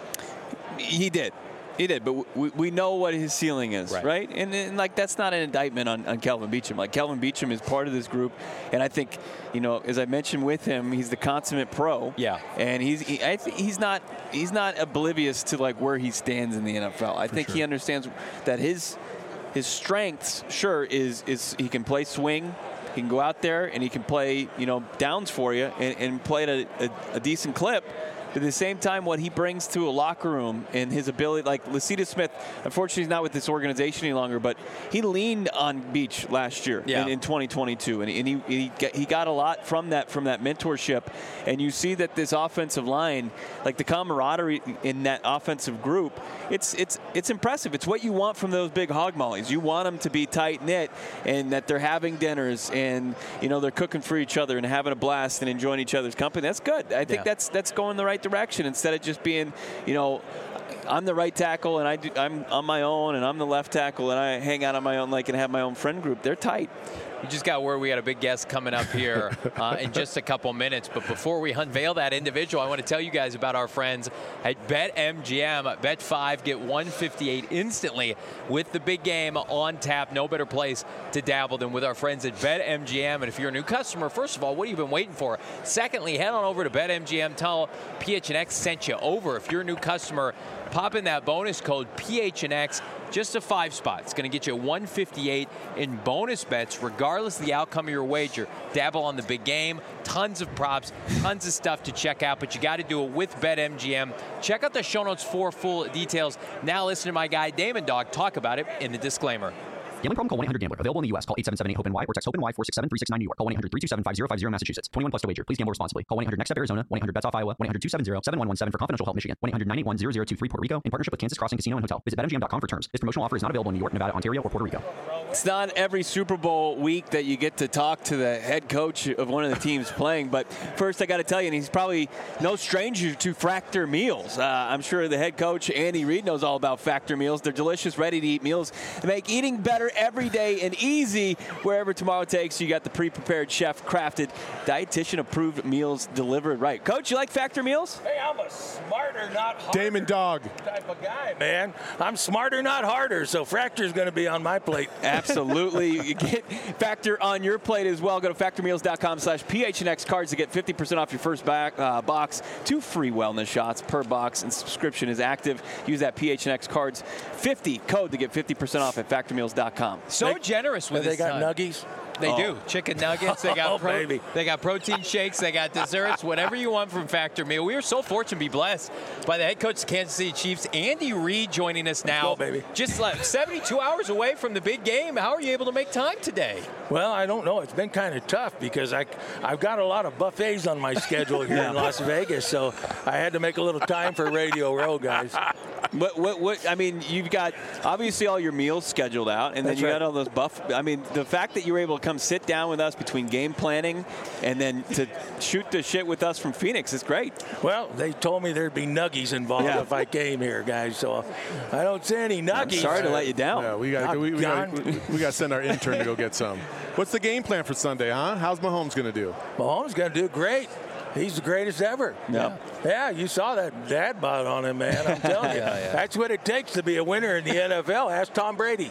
He did. He did, but we, we know what his ceiling is, Right. right? And, and like that's not an indictment on, on Kelvin Beacham. Like Kelvin Beacham is part of this group, and I think, you know, as I mentioned with him, he's the consummate pro. Yeah. And he's he, I think he's not he's not oblivious to like where he stands in the N F L. I think sure. he understands that his his strengths, sure, is is he can play swing. He can go out there and he can play, you know, downs for you and, and play at a, a, a decent clip. But at the same time, what he brings to a locker room and his ability, like Lacita Smith, unfortunately he's not with this organization any longer, but he leaned on Beach last year Yeah. in, in twenty twenty-two, and, and he he got, he got a lot from that from that mentorship. And you see that this offensive line, like the camaraderie in that offensive group, it's it's it's impressive. It's what you want from those big hog mollies. You want them to be tight knit and that they're having dinners and you know they're cooking for each other and having a blast and enjoying each other's company. That's good. I think Yeah. that's that's going the right direction instead of just being, you know, I'm the right tackle and I do, I'm on my own and I'm the left tackle and I hang out on my own like and have my own friend group. They're tight. You just got word we got a big guest coming up here uh, in just a couple minutes. But before we unveil that individual, I want to tell you guys about our friends at BetMGM. Bet five, get one fifty-eight instantly with the big game on tap. No better place to dabble than with our friends at BetMGM. And if you're a new customer, first of all, what have you been waiting for? Secondly, head on over to BetMGM. Tell P H N X sent you over. If you're a new customer, pop in that bonus code P H N X. Just a five spot. It's going to get you one fifty-eight in bonus bets, regardless of the outcome of your wager. Dabble on the big game. Tons of props, tons of stuff to check out, but you got to do it with BetMGM. Check out the show notes for full details. Now listen to my guy Damon Dog talk about it in the disclaimer. Gambling problem? Call one eight hundred gambler. Available in the U S. Call eight seven seven eight hope N Y or text HOPE-NY four six seven three six nine New York. Call one eight hundred three two seven five zero five zero Massachusetts. twenty-one plus to wager. Please gamble responsibly. Call one eight hundred next step Arizona. one eight hundred bets off Iowa. one eight hundred two seven zero seven one one seven for confidential help Michigan. one eight hundred nine eight one zero zero two three Puerto Rico in partnership with Kansas Crossing Casino and Hotel. Visit bet M G M dot com for terms. This promotional offer is not available in New York, Nevada, Ontario, or Puerto Rico. It's not every Super Bowl week that you get to talk to the head coach of one of the teams playing, but first I got to tell you, and he's probably no stranger to Factor meals. Uh, I'm sure the head coach, Andy Reid, knows all about Factor meals. They're delicious, ready-to-eat meals that make eating better every day and easy wherever tomorrow takes you. Got the pre-prepared, chef-crafted, dietitian-approved meals delivered right. Coach, you like Factor meals? Hey, I'm a smarter, not harder Damon Dog. type of guy, man. I'm smarter, not harder, so Fracture's going to be on my plate. Absolutely. You get Factor on your plate as well. Go to factor meals dot com slash P H N X cards to get fifty percent off your first back, uh, box. Two free wellness shots per box, and subscription is active. Use that P H N X cards fifty code to get fifty percent off at factor meals dot com. So generous with They this got time. nuggies. They Oh. do. Chicken nuggets. They got Oh, pro- baby. They got protein shakes. They got desserts. Whatever you want from Factor Meal. We are so fortunate to be blessed by the head coach of the Kansas City Chiefs, Andy Reid, joining us now. go, baby. Just like seventy-two hours away from the big game. How are you able to make time today? Well, I don't know. It's been kind of tough because I, I've got a lot of buffets on my schedule here in Las Vegas, so I had to make a little time for Radio Row, guys. What, what, what, I mean, you've got obviously all your meals scheduled out, and then That's you right. got all those buff. I mean, the fact that you were able to come sit down with us between game planning and then to shoot the shit with us from Phoenix is great. Well, they told me there'd be nuggies involved Yeah. if I came here, guys, so I don't see any nuggies. Sorry to let you down. Yeah, we got we, we got Gone. we got to send our intern to go get some. What's the game plan for Sunday, huh? How's Mahomes going to do? Mahomes going to do great. He's the greatest ever. Yeah. Yeah, you saw that dad bod on him, man. I'm telling you. Yeah, yeah. That's what it takes to be a winner in the N F L. Ask Tom Brady.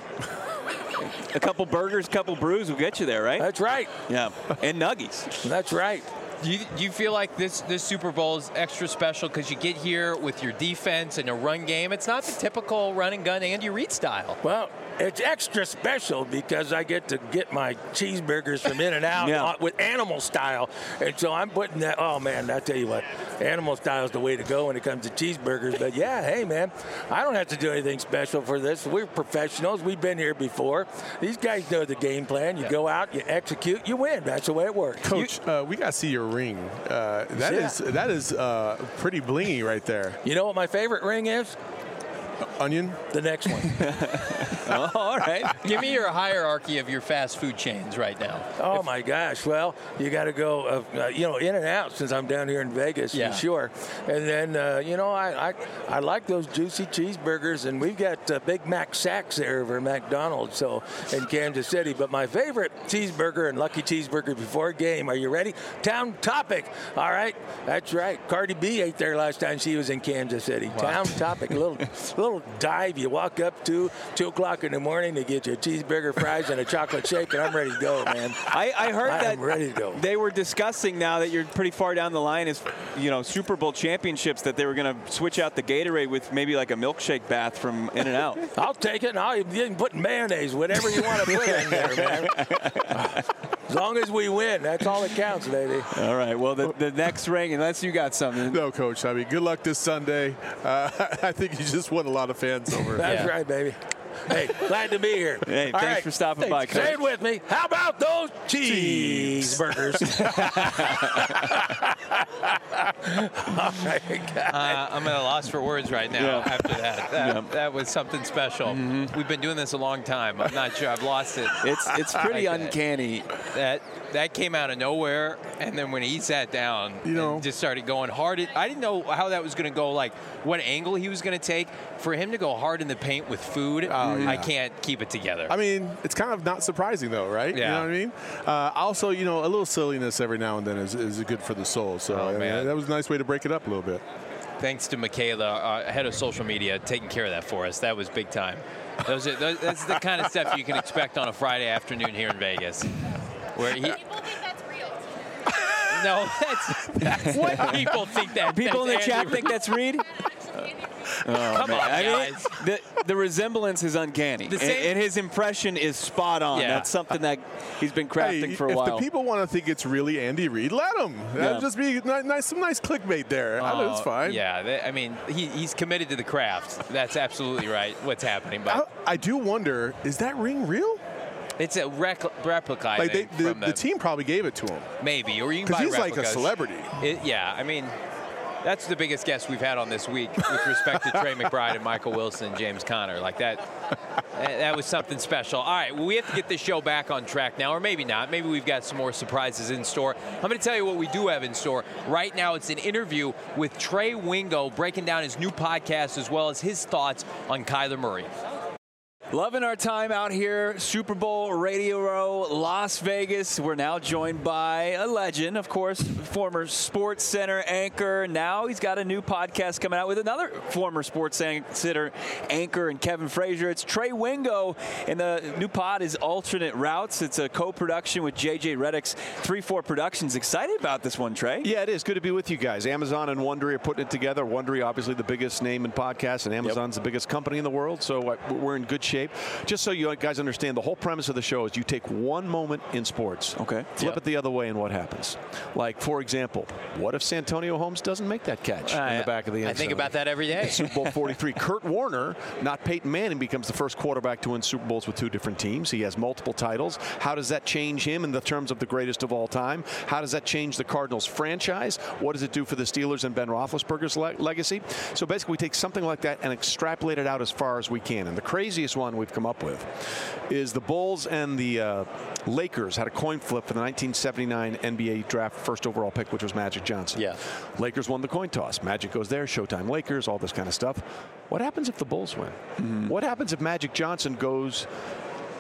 A couple burgers, a couple brews will get you there, right? That's right. Yeah, and nuggies. That's right. Do you, do you feel like this, this Super Bowl is extra special because you get here with your defense and a run game? It's not the typical run and gun Andy Reid style. Well, it's extra special because I get to get my cheeseburgers from In-N-Out Yeah. with animal style. And so I'm putting that, oh, man, I tell you what, animal style is the way to go when it comes to cheeseburgers. But, yeah, hey, man, I don't have to do anything special for this. We're professionals. We've been here before. These guys know the game plan. You yeah. go out, you execute, you win. That's the way it works. Coach, you, uh, we got to see your ring. Uh, that yeah. is that is uh, pretty blingy right there. You know what my favorite ring is? Onion? The next one. Oh, all right. Give me your hierarchy of your fast food chains right now. Oh, if, my gosh. Well, you got to go, uh, uh, you know, In-N-Out since I'm down here in Vegas, yeah. for sure. And then, uh, you know, I, I I like those juicy cheeseburgers, and we've got uh, Big Mac sacks there over McDonald's, so in Kansas City. But my favorite cheeseburger and lucky cheeseburger before a game, are you ready? Town Topic. All right. That's right. Cardi B ate there last time she was in Kansas City. Wow. Town Topic. A little, little dive you walk up to two o'clock in the morning to get your cheeseburger, fries, and a chocolate shake, and I'm ready to go, man. I, I heard I that am ready to go. They were discussing now that you're pretty far down the line as, you know, Super Bowl championships, that they were going to switch out the Gatorade with maybe like a milkshake bath from In-N-Out. I'll take it, and I'll even put mayonnaise, whatever you want to put in there, man. As long as we win, that's all that counts, baby. All right, well, the, the next ring, unless you got something. No, Coach. I mean, good luck this Sunday. Uh, I think you just won a lot of fans over. That's yeah. right, baby. Hey, glad to be here. Hey, all thanks right. for stopping hey, by, Coach. Say it with me. How about those cheeseburgers? All right, uh, I'm at a loss for words right now yeah. after that. That, yeah. that was something special. Mm-hmm. We've been doing this a long time. I'm not sure. I've lost it. It's it's pretty like uncanny. That. that that came out of nowhere, and then when he sat down you know, and just started going hard, it, I didn't know how that was going to go, like what angle he was going to take. For him to go hard in the paint with food, oh, yeah. I can't keep it together. I mean, it's kind of not surprising, though, right? Yeah. You know what I mean? Uh, also, you know, a little silliness every now and then is, is good for the soul. So oh, I mean, man. that was a nice way to break it up a little bit. Thanks to Michaela, uh, head of social media, taking care of that for us. That was big time. Those are, those, that's the kind of stuff you can expect on a Friday afternoon here in Vegas. Where he, People think that's real. no, that's, that's what people think that. People in the Andy chat Reid. think that's Reid? Oh, Come man. on, I mean, guys. the, the resemblance is uncanny. The And, same- and his impression is spot on. Yeah. That's something that he's been crafting Hey, for a if while. the people want to think it's really Andy Reid, let them. That'll Yeah. just be ni- nice, some nice clickbait there. I know it's Oh, fine. Yeah, they, I mean, he, he's committed to the craft. That's absolutely right. What's happening, but I, I do wonder, is that ring real? it's a rec- replica. I Like they, think, the, from the, the, team probably gave it to him maybe, or you can because buy he's like a replicas. celebrity. It, yeah, I mean, that's the biggest guest we've had on this week with respect to Trey McBride and Michael Wilson and James Conner. Like that, that was something special. All right, well, we have to get this show back on track now, or maybe not. Maybe we've got some more surprises in store. I'm going to tell you what we do have in store. Right now, it's an interview with Trey Wingo breaking down his new podcast as well as his thoughts on Kyler Murray. Loving our time out here, Super Bowl Radio Row, Las Vegas. We're now joined by a legend, of course, former Sports Center anchor. Now he's got a new podcast coming out with another former Sports Center anchor and Kevin Frazier. It's Trey Wingo, and the new pod is Alternate Routes. It's a co-production with J J Redick's three four Productions. Excited about this one, Trey? Yeah, it is. Good to be with you guys. Amazon and Wondery are putting it together. Wondery, obviously the biggest name in podcasts, and Amazon's yep. the biggest company in the world, so we're in good shape. Just so you guys understand, the whole premise of the show is you take one moment in sports, okay, flip yep. it the other way, and what happens? Like, for example, what if Santonio Holmes doesn't make that catch uh, in the back of the end I think zone? about that every day. Super Bowl forty-three. Kurt Warner, not Peyton Manning, becomes the first quarterback to win Super Bowls with two different teams. He has multiple titles. How does that change him in the terms of the greatest of all time? How does that change the Cardinals franchise? What does it do for the Steelers and Ben Roethlisberger's le- legacy? So basically, we take something like that and extrapolate it out as far as we can. And the craziest one we've come up with is the Bulls and the uh, Lakers had a coin flip for the nineteen seventy-nine N B A draft first overall pick, which was Magic Johnson. Yeah. Lakers won the coin toss. Magic goes there, Showtime Lakers, all this kind of stuff. What happens if the Bulls win? Mm-hmm. What happens if Magic Johnson goes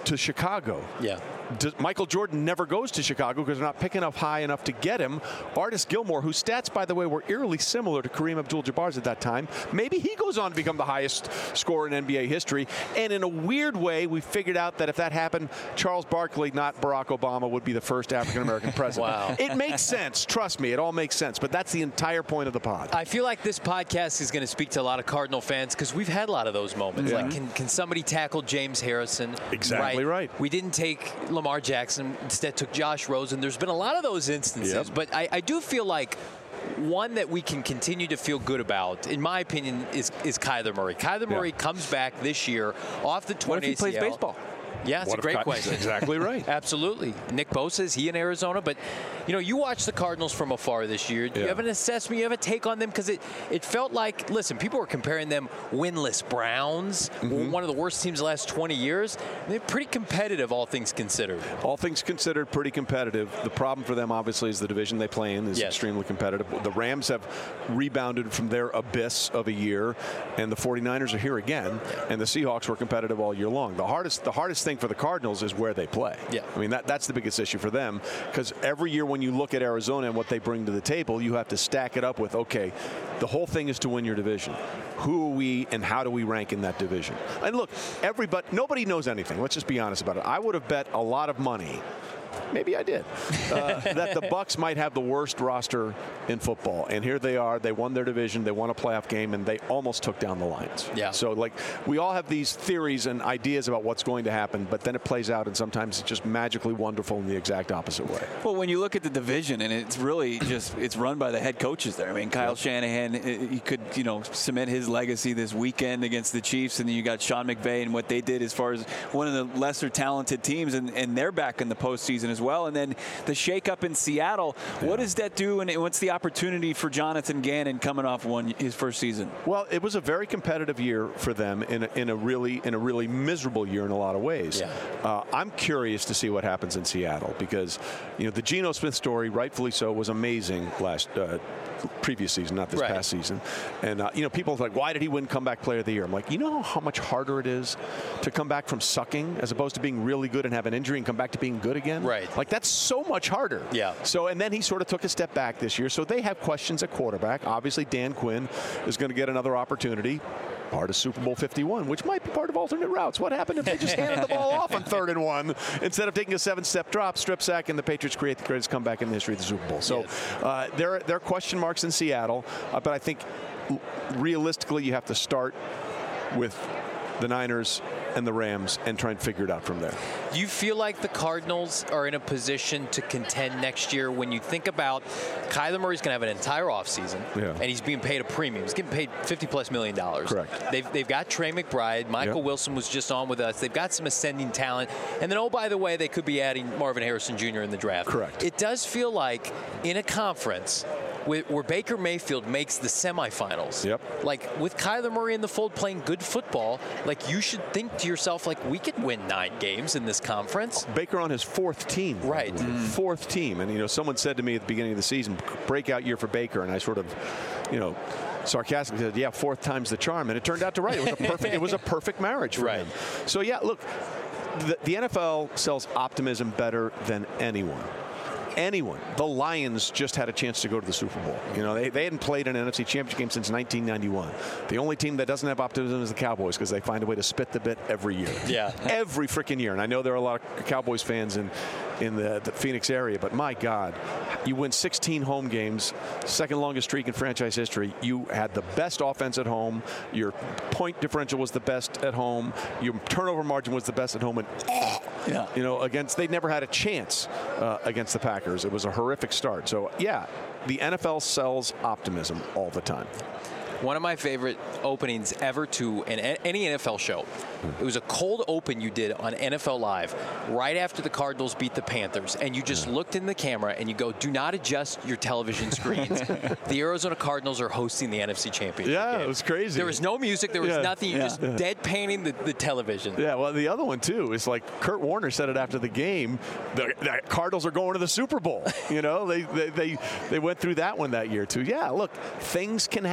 to Chicago. Yeah. Does, Michael Jordan never goes to Chicago because they're not picking up high enough to get him. Artis Gilmore, whose stats, by the way, were eerily similar to Kareem Abdul-Jabbar's at that time, maybe he goes on to become the highest scorer in N B A history. And in a weird way, we figured out that if that happened, Charles Barkley, not Barack Obama, would be the first African-American president. Wow. It makes sense. Trust me, it all makes sense. But that's the entire point of the pod. I feel like this podcast is going to speak to a lot of Cardinal fans because we've had a lot of those moments. Yeah. Like, can, can somebody tackle James Harrison? Exactly right. We didn't take Lamar Jackson. Instead took Josh Rosen. There's been a lot of those instances. Yep. But I, I do feel like one that we can continue to feel good about, in my opinion, is, is Kyler Murray. Kyler Murray Yeah. comes back this year off the torn What if he plays A C L. baseball? Yeah, it's What a if great Ky- question. Exactly right. Absolutely. Nick Bosa, is he in Arizona? But, you know, you watch the Cardinals from afar this year. Do you Yeah. have an assessment? You have a take on them? Because it, it felt like, listen, people were comparing them winless Browns, Mm-hmm. one of the worst teams the last twenty years. They're pretty competitive, all things considered. All things considered, pretty competitive. The problem for them, obviously, is the division they play in is Yes. extremely competitive. The Rams have rebounded from their abyss of a year, and the forty-niners are here again, and the Seahawks were competitive all year long. The hardest, the hardest thing for the Cardinals is where they play. Yeah. I mean, that, that's the biggest issue for them, because every year when you look at Arizona and what they bring to the table, you have to stack it up with, okay, the whole thing is to win your division. Who are we and how do we rank in that division? And look, everybody, nobody knows anything. Let's just be honest about it. I would have bet a lot of money, maybe I did, uh, that the Bucs might have the worst roster in football. And here they are. They won their division. They won a playoff game, and they almost took down the Lions. Yeah. So, like, we all have these theories and ideas about what's going to happen, but then it plays out, and sometimes it's just magically wonderful in the exact opposite way. Well, when you look at the division, and it's really just it's run by the head coaches there. I mean, Kyle Shanahan, he could you know cement his legacy this weekend against the Chiefs, and then you got Sean McVay and what they did as far as one of the lesser talented teams, and, and they're back in the postseason as well. And then the shakeup in Seattle. Yeah. What does that do, and what's the opportunity for Jonathan Gannon coming off one his first season? Well, it was a very competitive year for them in a, in a really in a really miserable year in a lot of ways. Yeah. Uh, I'm curious to see what happens in Seattle because you know the Geno Smith story, rightfully so, was amazing last uh, previous season, not this right. past season. And uh, you know, people are like, why did he win comeback player of the year? I'm like, you know how much harder it is to come back from sucking as opposed to being really good and have an injury and come back to being good again. Right. Like that's so much harder. Yeah. So and then he sort of took a step back this year. So they have questions at quarterback. Obviously, Dan Quinn is going to get another opportunity. Part of Super Bowl fifty-one, which might be part of alternate routes. What happened if they just handed the ball off on third and one instead of taking a seven-step drop, strip sack, and the Patriots create the greatest comeback in the history of the Super Bowl? So uh, there, there are question marks in Seattle, uh, but I think realistically you have to start with the Niners and the Rams and try and figure it out from there. Do you feel like the Cardinals are in a position to contend next year when you think about Kyler Murray's going to have an entire offseason, yeah. and he's being paid a premium. He's getting paid fifty plus million dollars. Correct. They've, they've got Trey McBride. Michael Yep. Wilson was just on with us. They've got some ascending talent. And then, oh, by the way, they could be adding Marvin Harrison Junior in the draft. Correct. It does feel like in a conference where, where Baker Mayfield makes the semifinals. Yep. Like with Kyler Murray in the fold playing good football, like you should think to yourself, like we could win nine games in this conference. Baker on his fourth team. Right. Mm. Fourth team. And, you know, someone said to me at the beginning of the season, breakout year for Baker. And I sort of, you know, sarcastically said, yeah, fourth time's the charm. And it turned out to right. It was a perfect, it was a perfect marriage for right. him. So, yeah, look, the, the N F L sells optimism better than anyone. Anyone. The Lions just had a chance to go to the Super Bowl. You know, they, they hadn't played an N F C Championship game since nineteen ninety-one. The only team that doesn't have optimism is the Cowboys because they find a way to spit the bit every year. Yeah. Every freaking year. And I know there are a lot of Cowboys fans in, in the, the Phoenix area, but my God, you win sixteen home games, second longest streak in franchise history. You had the best offense at home. Your point differential was the best at home. Your turnover margin was the best at home. And, yeah. you know, against, they never had a chance uh, against the Packers. It was a horrific start. So, yeah, the N F L sells optimism all the time. One of my favorite openings ever to an, any N F L show. It was a cold open you did on N F L Live right after the Cardinals beat the Panthers. And you just looked in the camera and you go, do not adjust your television screens. The Arizona Cardinals are hosting the N F C Championship Yeah, game. it was crazy. There was no music. There was Yeah. nothing. You're Yeah. just deadpanning the, the television. Yeah, well, the other one, too, is like Kurt Warner said it after the game. The, the Cardinals are going to the Super Bowl. You know, they, they, they, they went through that one that year, too. Yeah, look, things can happen. Yeah.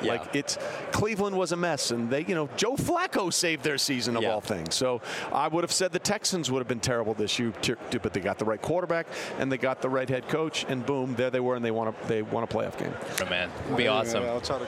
Yeah. Like it's Cleveland was a mess, and they, you know, Joe Flacco saved their season of yeah. all things. So I would have said the Texans would have been terrible this year, but they got the right quarterback and they got the right head coach, and boom, there they were, and they won a they won a playoff game. Oh, man, it'd be hey, awesome. Man, I'll try to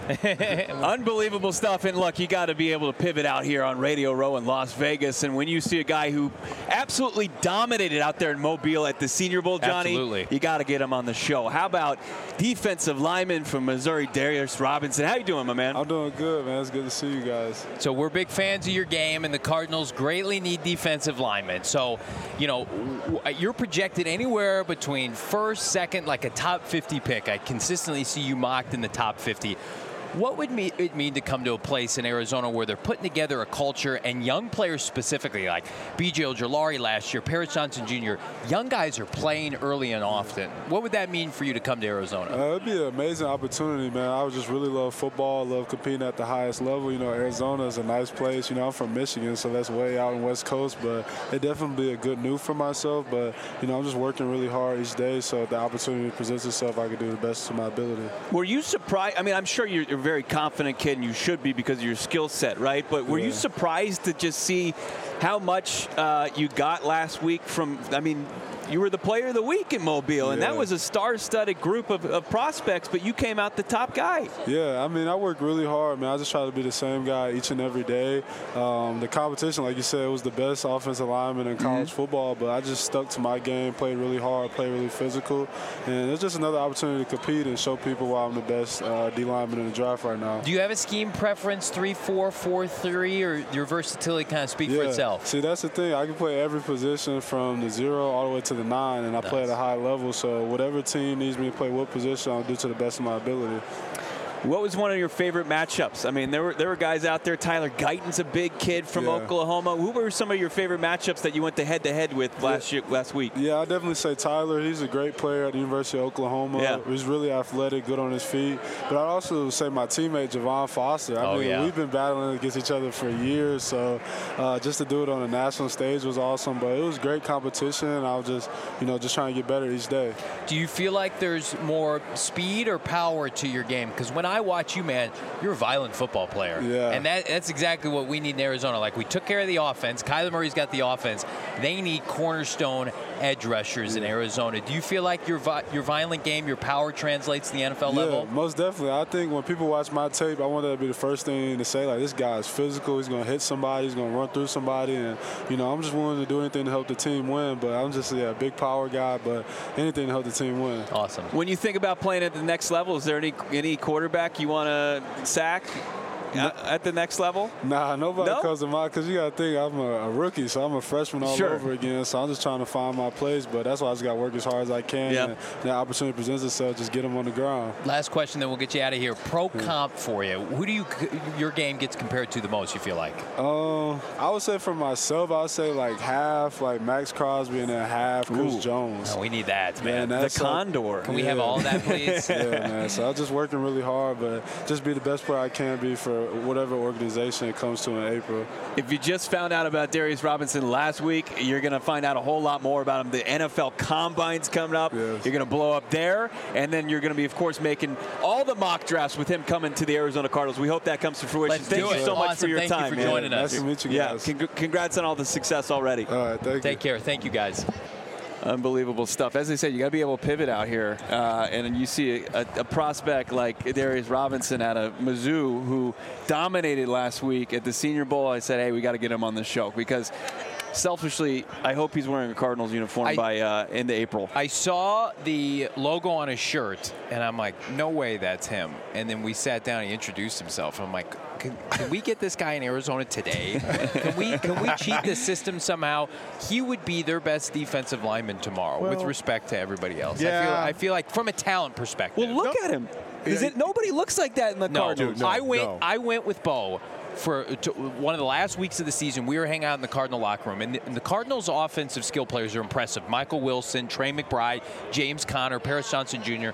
come. Unbelievable stuff. And look, you got to be able to pivot out here on Radio Row in Las Vegas. And when you see a guy who absolutely dominated out there in Mobile at the Senior Bowl, Johnny, Absolutely. you got to get him on the show. How about defensive lineman from Missouri, Darius Robinson? How you doing, my man? I'm doing good, man. It's good to see you guys. So we're big fans of your game, and the Cardinals greatly need defensive linemen. So, you know, you're projected anywhere between first, second, like a top fifty pick. I consistently see you mocked in the top fifty. What would it mean to come to a place in Arizona where they're putting together a culture, and young players specifically, like B J Ojulari last year, Paris Johnson Junior, young guys are playing early and often. What would that mean for you to come to Arizona? Uh, it'd be an amazing opportunity, man. I would just really love football, love competing at the highest level. You know, Arizona is a nice place. You know, I'm from Michigan, so that's way out in West Coast, but it definitely be a good move for myself. But, you know, I'm just working really hard each day, so if the opportunity presents itself, I can do the best of my ability. Were you surprised? I mean, I'm sure you're, you're a very confident kid, and you should be because of your skill set, right? But were yeah. you surprised to just see how much uh, you got last week from, I mean, you were the player of the week in Mobile, and yeah. that was a star-studded group of, of prospects, but you came out the top guy. Yeah, I mean, I work really hard, man. I just try to be the same guy each and every day. Um, the competition, like you said, was the best offensive lineman in college mm-hmm. football, but I just stuck to my game, played really hard, played really physical, and it's just another opportunity to compete and show people why I'm the best uh, D lineman in the draft right now. Do you have a scheme preference, three four, four three, or your versatility kind of speak yeah. for itself? See, that's the thing. I can play every position from the zero all the way to the nine, and I nice. play at a high level. So whatever team needs me to play what position, I'll do to the best of my ability. What was one of your favorite matchups? I mean, there were there were guys out there. Tyler Guyton's a big kid from yeah. Oklahoma. Who were some of your favorite matchups that you went to head-to-head with last yeah. year, last week? Yeah, I definitely say Tyler. He's a great player at the University of Oklahoma. Yeah. He's really athletic, good on his feet. But I'd also say my teammate, Javon Foster. I oh, mean, yeah. we've been battling against each other for years, so uh, just to do it on a national stage was awesome. But it was great competition, and I was just, you know, just trying to get better each day. Do you feel like there's more speed or power to your game? Because when I watch you, man, you're a violent football player. Yeah. And that, that's exactly what we need in Arizona. Like, we took care of the offense. Kyler Murray's got the offense. They need cornerstone edge rushers yeah. in Arizona. Do you feel like your vi- your violent game, your power translates to the N F L yeah, level? Most definitely. I think when people watch my tape, I want that to be the first thing to say, like, this guy's physical. He's going to hit somebody. He's going to run through somebody. And, you know, I'm just willing to do anything to help the team win. But I'm just yeah, a big power guy, but anything to help the team win. Awesome. When you think about playing at the next level, is there any any quarterback you want to sack no. at the next level? Nah, nobody no? comes to mind because you got to think I'm a, a rookie, so I'm a freshman all sure. over again. So I'm just trying to find my place, but that's why I just got to work as hard as I can. Yep. And the opportunity presents itself, just get them on the ground. Last question, then we'll get you out of here. Pro comp for you. Who do you your game gets compared to the most, you feel like? Um, I would say for myself, I would say like half, like Max Crosby, and then half Chris Ooh. Jones. Oh, we need that, man. man the Condor. Can we yeah. have all of that, please? Yeah, man. So I'm just working really hard, but just be the best player I can be for whatever organization it comes to in April. If you just found out about Darius Robinson last week, you're going to find out a whole lot more about him. The N F L Combine's coming up. Yes. You're going to blow up there, and then you're going to be, of course, making all the mock drafts with him coming to the Arizona Cardinals. We hope that comes to fruition. Let's Thank do you it. so much Awesome. for your Thank time, you for man. joining us. Nice to meet you Yeah, guys. con- congrats on all the success already. All right, thank you. Take care. Thank you, guys. Unbelievable stuff. As I said, you got to be able to pivot out here. Uh, and then you see a, a prospect like Darius Robinson out of Mizzou who dominated last week at the Senior Bowl. I said, hey, we got to get him on the show because selfishly, I hope he's wearing a Cardinals uniform I, by uh, end of April. I saw the logo on his shirt, and I'm like, no way that's him. And then we sat down and he introduced himself. I'm like, can, can we get this guy in Arizona today? Can we can we cheat the system somehow? He would be their best defensive lineman tomorrow, well, with respect to everybody else. Yeah. I feel I feel like from a talent perspective. Well, look no. at him. Is it nobody looks like that in the no, Cardinals? No, I went no. I went with Bo. For to, one of the last weeks of the season, we were hanging out in the Cardinal locker room, and the, and the Cardinals' offensive skill players are impressive. Michael Wilson, Trey McBride, James Conner, Paris Johnson Junior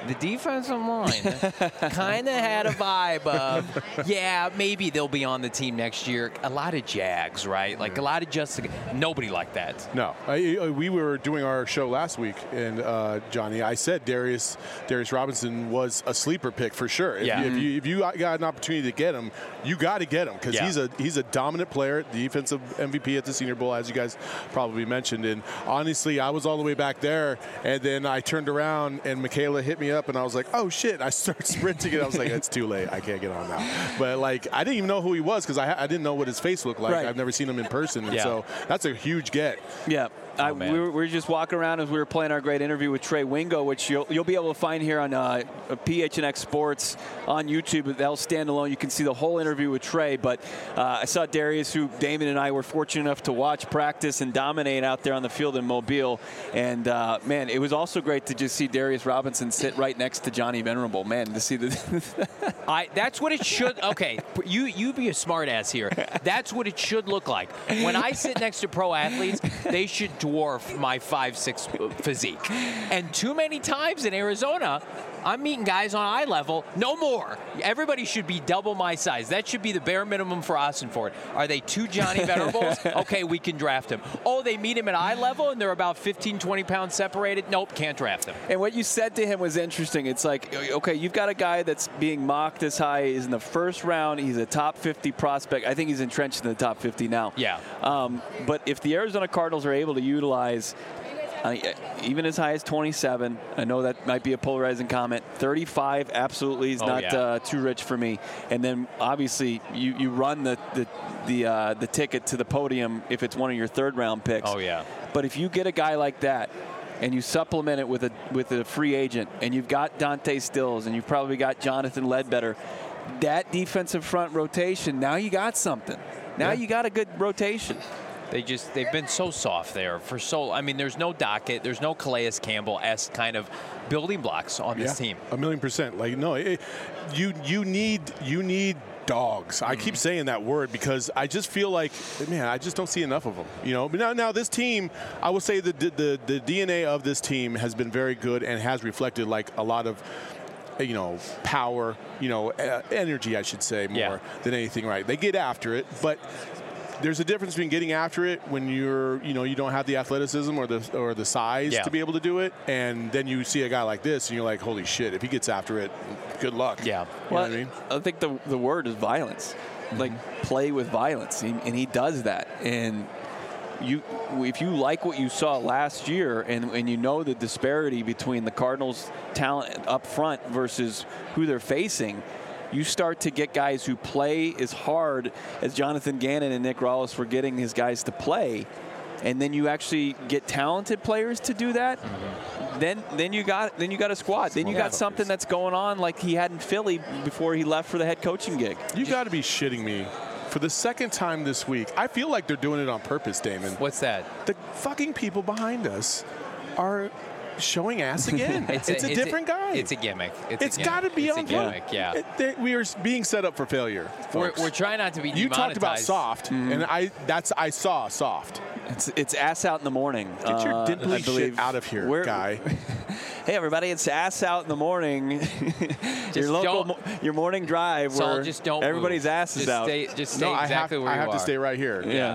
the defensive line kind of had a vibe of, yeah, maybe they'll be on the team next year. A lot of Jags, right? Like a lot of just nobody like that. No, I, we were doing our show last week, and uh, Johnny, I said Darius Darius Robinson was a sleeper pick for sure. If, Yeah. you, if you if you got an opportunity to get him, you got to get him because Yeah. he's a he's a dominant player, defensive M V P at the Senior Bowl, as you guys probably mentioned. And honestly, I was all the way back there, and then I turned around and Michaela hit me up, and I was like, oh shit! I started sprinting, and I was like, it's too late. I can't get on now. But like, I didn't even know who he was because I, ha- I didn't know what his face looked like. Right. I've never seen him in person, and Yeah. so that's a huge get. Yeah. I, man. we, were, we were just walking around as we were playing our great interview with Trey Wingo, which you'll, you'll be able to find here on uh, P H N X Sports on YouTube. That'll stand alone. You can see the whole interview with Trey. But uh, I saw Darius, who Damon and I were fortunate enough to watch practice and dominate out there on the field in Mobile. And, uh, man, it was also great to just see Darius Robinson sit right next to Johnny Venerable. Man, to see the I, that's what it should. Okay, you you be a smart ass here. That's what it should look like. When I sit next to pro athletes, they should dwarf my five six physique. And too many times in Arizona, I'm meeting guys on eye level. No more. Everybody should be double my size. That should be the bare minimum for Ossenfort. Are they two Johnny Venerables? Okay, we can draft him. Oh, they meet him at eye level and they're about fifteen, twenty pounds separated? Nope, can't draft him. And what you said to him was interesting. It's like, okay, you've got a guy that's being mocked this high. He's in the first round. He's a top fifty prospect. I think he's entrenched in the top fifty now. Yeah. Um, but if the Arizona Cardinals are able to utilize uh, even as high as twenty-seven, I know that might be a polarizing comment, thirty-five absolutely is Oh, not yeah. uh, too rich for me. And then obviously you, you run the the the, uh, the ticket to the podium if it's one of your third round picks. Oh, yeah. But if you get a guy like that, and you supplement it with a with a free agent, and you've got Dante Stills, and you've probably got Jonathan Ledbetter, that defensive front rotation, now you got something. Now Yeah. you got a good rotation. They just, they've been so soft there for so, I mean, there's no Dockett, there's no Calais Campbell-esque kind of building blocks on this team. A million percent. Like, no, it, you you need you need dogs. Mm-hmm. I keep saying that word because I just feel like, man, I just don't see enough of them. You know, but now now this team, I will say that the, the the D N A of this team has been very good and has reflected like a lot of, you know, power, you know, uh, energy, I should say, more Yeah. than anything. Right? They get after it, but there's a difference between getting after it when you're, you know, you don't have the athleticism or the or the size Yeah. to be able to do it, and then you see a guy like this, and you're like, holy shit! If he gets after it, good luck. Yeah. You Well, know what I mean? I think the the word is violence. Like play with violence, and and he does that. And you, if you like what you saw last year, and, and you know the disparity between the Cardinals' talent up front versus who they're facing, you start to get guys who play as hard as Jonathan Gannon and Nick Rawlis were getting his guys to play, and then you actually get talented players to do that. Mm-hmm. Then, then you got then you got a squad. Then you got something that's going on like he had in Philly before he left for the head coaching gig. You got to be shitting me. For the second time this week, I feel like they're doing it on purpose, Damon. What's that? The fucking people behind us are showing ass again. it's, a, it's different guy. It's a gimmick. It's, it's a got to gimmick. be it's on a gimmick. Yeah. It, they, we are being set up for failure. We're, folks. we're trying not to be You talked about demonetized. soft, Mm-hmm. and I that's I saw soft. It's it's ass out in the morning. Get your uh, dimply I shit believe. out of here, We're- guy. Hey everybody, it's ass out in the morning. your Just local, don't- mo- your morning drive Saul, where just don't everybody's move. ass is just out. Stay, just stay No, I exactly have, where I you have are. to stay right here. Yeah.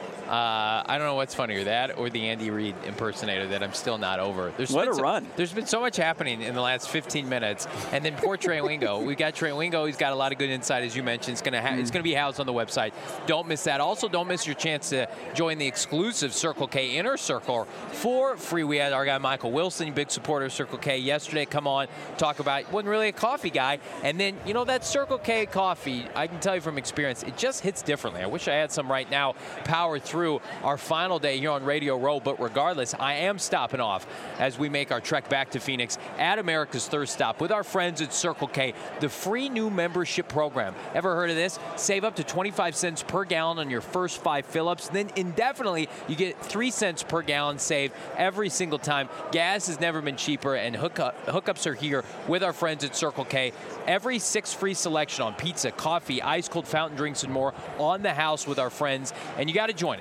Uh, I don't know what's funnier, that or the Andy Reid impersonator that I'm still not over. There's What been a so, run. There's been so much happening in the last fifteen minutes. And then poor Trey Wingo. We got Trey Wingo. He's got a lot of good insight, as you mentioned. It's going to ha- it's going to be housed on the website. Don't miss that. Also, don't miss your chance to join the exclusive Circle K Inner Circle for free. We had our guy Michael Wilson, big supporter of Circle K, yesterday. Come on, talk about, wasn't really a coffee guy. And then, you know, that Circle K coffee, I can tell you from experience, it just hits differently. I wish I had some right now. Power through our final day here on Radio Row, but regardless, I am stopping off as we make our trek back to Phoenix at America's Thirst Stop with our friends at Circle K, the free new membership program. Ever heard of this? Save up to twenty-five cents per gallon on your first five fill-ups. Then indefinitely, you get three cents per gallon saved every single time. Gas has never been cheaper, and hookup, hookups are here with our friends at Circle K. Every six free selection on pizza, coffee, ice-cold fountain drinks, and more on the house with our friends. And you got to join it.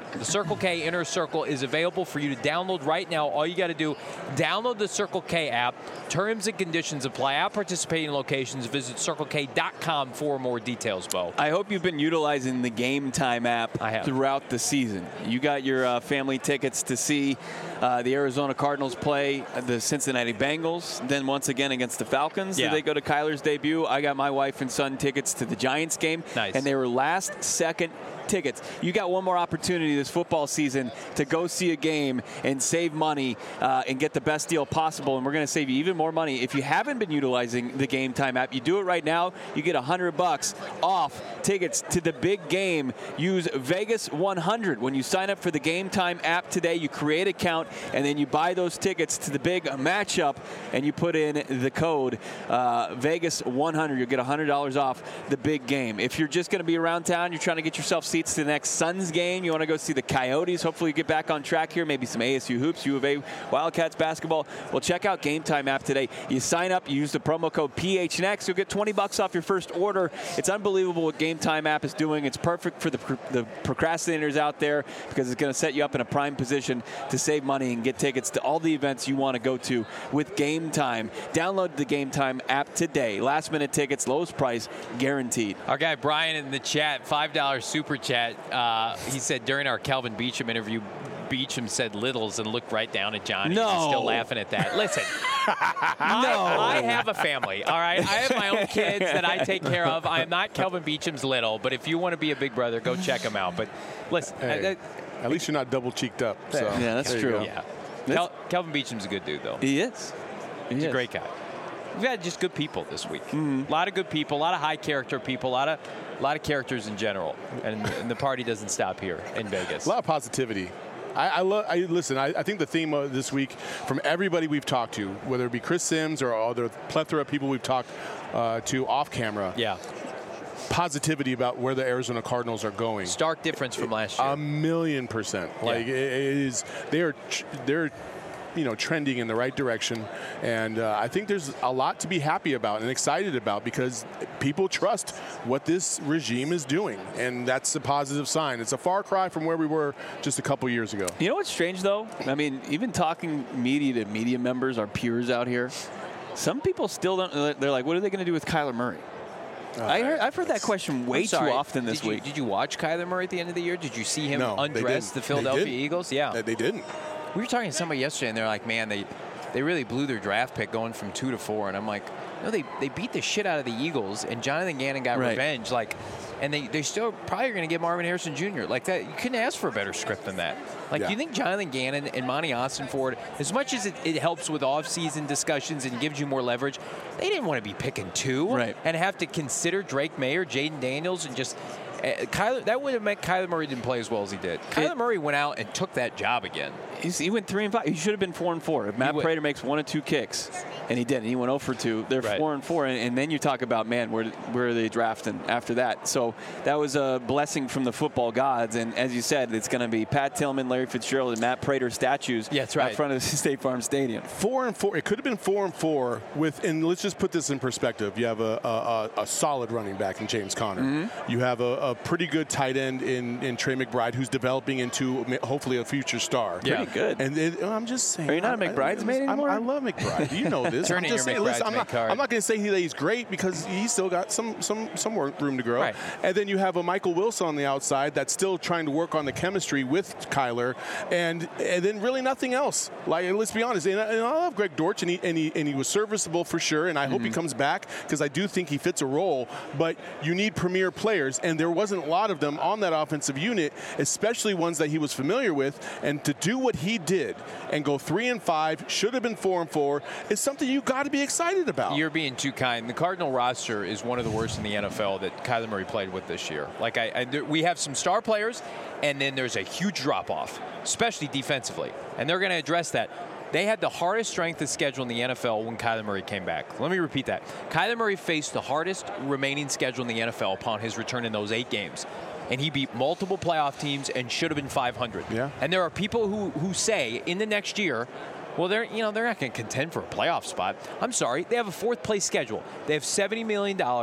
The Circle K Inner Circle is available for you to download right now. All you got to do, download the Circle K app. Terms and conditions apply. At participating locations, visit circle k dot com for more details, Bo. I hope you've been utilizing the Game Time app I have. throughout the season. You got your uh, family tickets to see uh, the Arizona Cardinals play the Cincinnati Bengals, then once again against the Falcons. Yeah. They go to Kyler's debut. I got my wife and son tickets to the Giants game. Nice. And they were last second tickets. You got one more opportunity this football season to go see a game and save money uh, and get the best deal possible. And we're going to save you even more money. If you haven't been utilizing the Game Time app, you do it right now. You get one hundred bucks off tickets to the big game. Use Vegas one hundred when you sign up for the Game Time app today. You create an account and then you buy those tickets to the big matchup and you put in the code uh, Vegas one hundred. You'll get one hundred dollars off the big game. If you're just going to be around town, you're trying to get yourself seats to the next Suns game, you want to go see the Coyotes, hopefully you get back on track here, maybe some A S U hoops, U of A Wildcats basketball. Well, check out Game Time app today. You sign up, you use the promo code P H N X, you'll get twenty bucks off your first order. It's unbelievable what Game Time app is doing. It's perfect for the, the procrastinators out there because it's going to set you up in a prime position to save money and get tickets to all the events you want to go to with Game Time. Download the Game Time app today. Last minute tickets, lowest price guaranteed. Our guy Brian in the chat, five dollar super chat, uh, he said during our Kelvin Beachum interview, Beachum said littles and looked right down at Johnny. No. He's still laughing at that. Listen, no. I, I have a family, all right? I have my own kids that I take care of. I am not Kelvin Beachum's little, but if you want to be a big brother, go check him out. But listen, Hey, I, I, at least you're not double cheeked up. So. Yeah, that's There you true. go. yeah. Kel, Kelvin Beachum's a good dude, though. He is. He He's is. a great guy. We've had just good people this week. Mm-hmm. A lot of good people, a lot of high character people, a lot of, a lot of characters in general. And, and the party doesn't stop here in Vegas. A lot of positivity. I, I, lo- I listen. I, I think the theme of this week, from everybody we've talked to, whether it be Chris Sims or other plethora of people we've talked uh, to off camera, Yeah. positivity about where the Arizona Cardinals are going. Stark difference from last year. A million percent. Like Yeah. it, it is, they are, tr- they're, you know, trending in the right direction, and uh, I think there's a lot to be happy about and excited about because people trust what this regime is doing, and that's a positive sign. It's a far cry from where we were just a couple years ago. You know what's strange, though? I mean, even talking media to media members, our peers out here, some people still don't. They're like, what are they going to do with Kyler Murray? Uh, I heard, I've heard that question way I'm sorry, too often this did you, week. Did you watch Kyler Murray at the end of the year? Did you see him No, they undress didn't. the They Philadelphia didn't. Eagles? Yeah. They, they didn't. We were talking to somebody yesterday, and they're like, man, they, they really blew their draft pick going from two to four. And I'm like, no, they, they beat the shit out of the Eagles, and Jonathan Gannon got Right. revenge. Like, and they, they still probably going to get Marvin Harrison Junior Like that, you couldn't ask for a better script than that. Like, Yeah. do you think Jonathan Gannon and Monty Austin-Ford, as much as it, it helps with off-season discussions and gives you more leverage, they didn't want to be picking two Right. and have to consider Drake Mayer, Jaden Daniels, and just uh, Kyler. That would have meant Kyler Murray didn't play as well as he did. Kyler It- Murray went out and took that job again. He's, he went three and five. He should have been four and four. If Matt He would- Prater makes one or two kicks, and he didn't, he went zero for two. They're Right. four and four, and, and then you talk about, man, where where are they drafting after that? So that was a blessing from the football gods. And as you said, it's going to be Pat Tillman, Larry Fitzgerald, and Matt Prater statues Yeah, that's right. out front of the State Farm Stadium. Four and four. It could have been four and four with. And let's just put this in perspective. You have a a, a, a solid running back in James Conner. Mm-hmm. You have a, a pretty good tight end in, in Trey McBride, who's developing into hopefully a future star. Yeah. Pretty good. And it, I'm just saying. Are you not a I- I- McBridesmaid I'm- anymore? I love McBride. You know this. Turn I'm in just your saying. Listen, I'm McBridesmaid not, card. I'm not going to say that he's great because he's still got some some some work room to grow. Right. And then you have a Michael Wilson on the outside that's still trying to work on the chemistry with Kyler, and and then really nothing else. Like let's be honest. And I, and I love Greg Dortch, and he and he and he was serviceable for sure. And I hope he Mm-hmm. comes back because I do think he fits a role. But you need premier players, and there wasn't a lot of them on that offensive unit, especially ones that he was familiar with. And to do what he did and go three and five, should have been four and four, is something you got to be excited about. You're being too kind. The Cardinal roster is one of the worst in the N F L that Kyler Murray played with this year. Like I, I there, we have some star players, and then there's a huge drop-off, especially defensively, and they're going to address that. They had the hardest strength of schedule in the N F L when Kyler Murray came back. Let me repeat that. Kyler Murray faced the hardest remaining schedule in the N F L upon his return in those eight games. And he beat multiple playoff teams and should have been five hundred. Yeah. And there are people who, who say in the next year, well, they're you know they're not going to contend for a playoff spot. I'm sorry, they have a fourth place schedule. They have seventy million dollars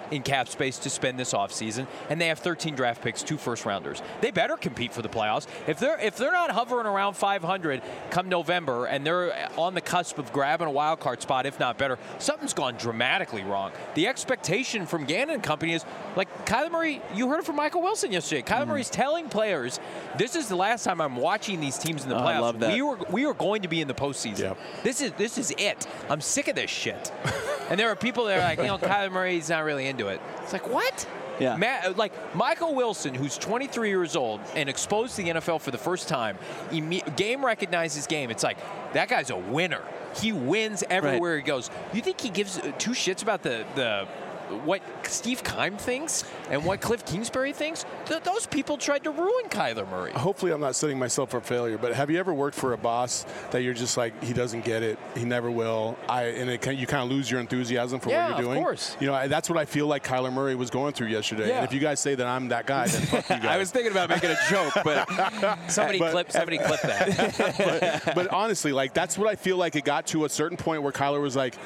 in cap space to spend this offseason, and they have thirteen draft picks, two first-rounders. They better compete for the playoffs. If they're if they're not hovering around five hundred come November and they're on the cusp of grabbing a wild card spot, if not better, something's gone dramatically wrong. The expectation from Gannon and company is, like Kyler Murray, you heard it from Michael Wilson yesterday. Kyler mm-hmm. Murray's telling players, this is the last time I'm watching these teams in the oh, playoffs. I love that. We were we are going to be in the postseason. Yep. This is this is it. I'm sick of this shit. And there are people that are like, you know, Kyler Murray's not really into it. It's like, what? Yeah. Matt, like Michael Wilson, who's twenty-three years old and exposed to the N F L for the first time, game recognizes game. It's like, that guy's a winner. He wins everywhere right. he goes. You think he gives two shits about the the what Steve Keim thinks and what Cliff Kingsbury thinks? Th- those people tried to ruin Kyler Murray. Hopefully I'm not setting myself for failure, but have you ever worked for a boss that you're just like, he doesn't get it, he never will, I and it can, you kind of lose your enthusiasm for yeah, what you're doing? Of course. You know, I, that's what I feel like Kyler Murray was going through yesterday. Yeah. And if you guys say that I'm that guy, then fuck you guys. I was thinking about making a joke, but somebody but, clip somebody clip that. but, but honestly, like that's what I feel like it got to a certain point where Kyler was like,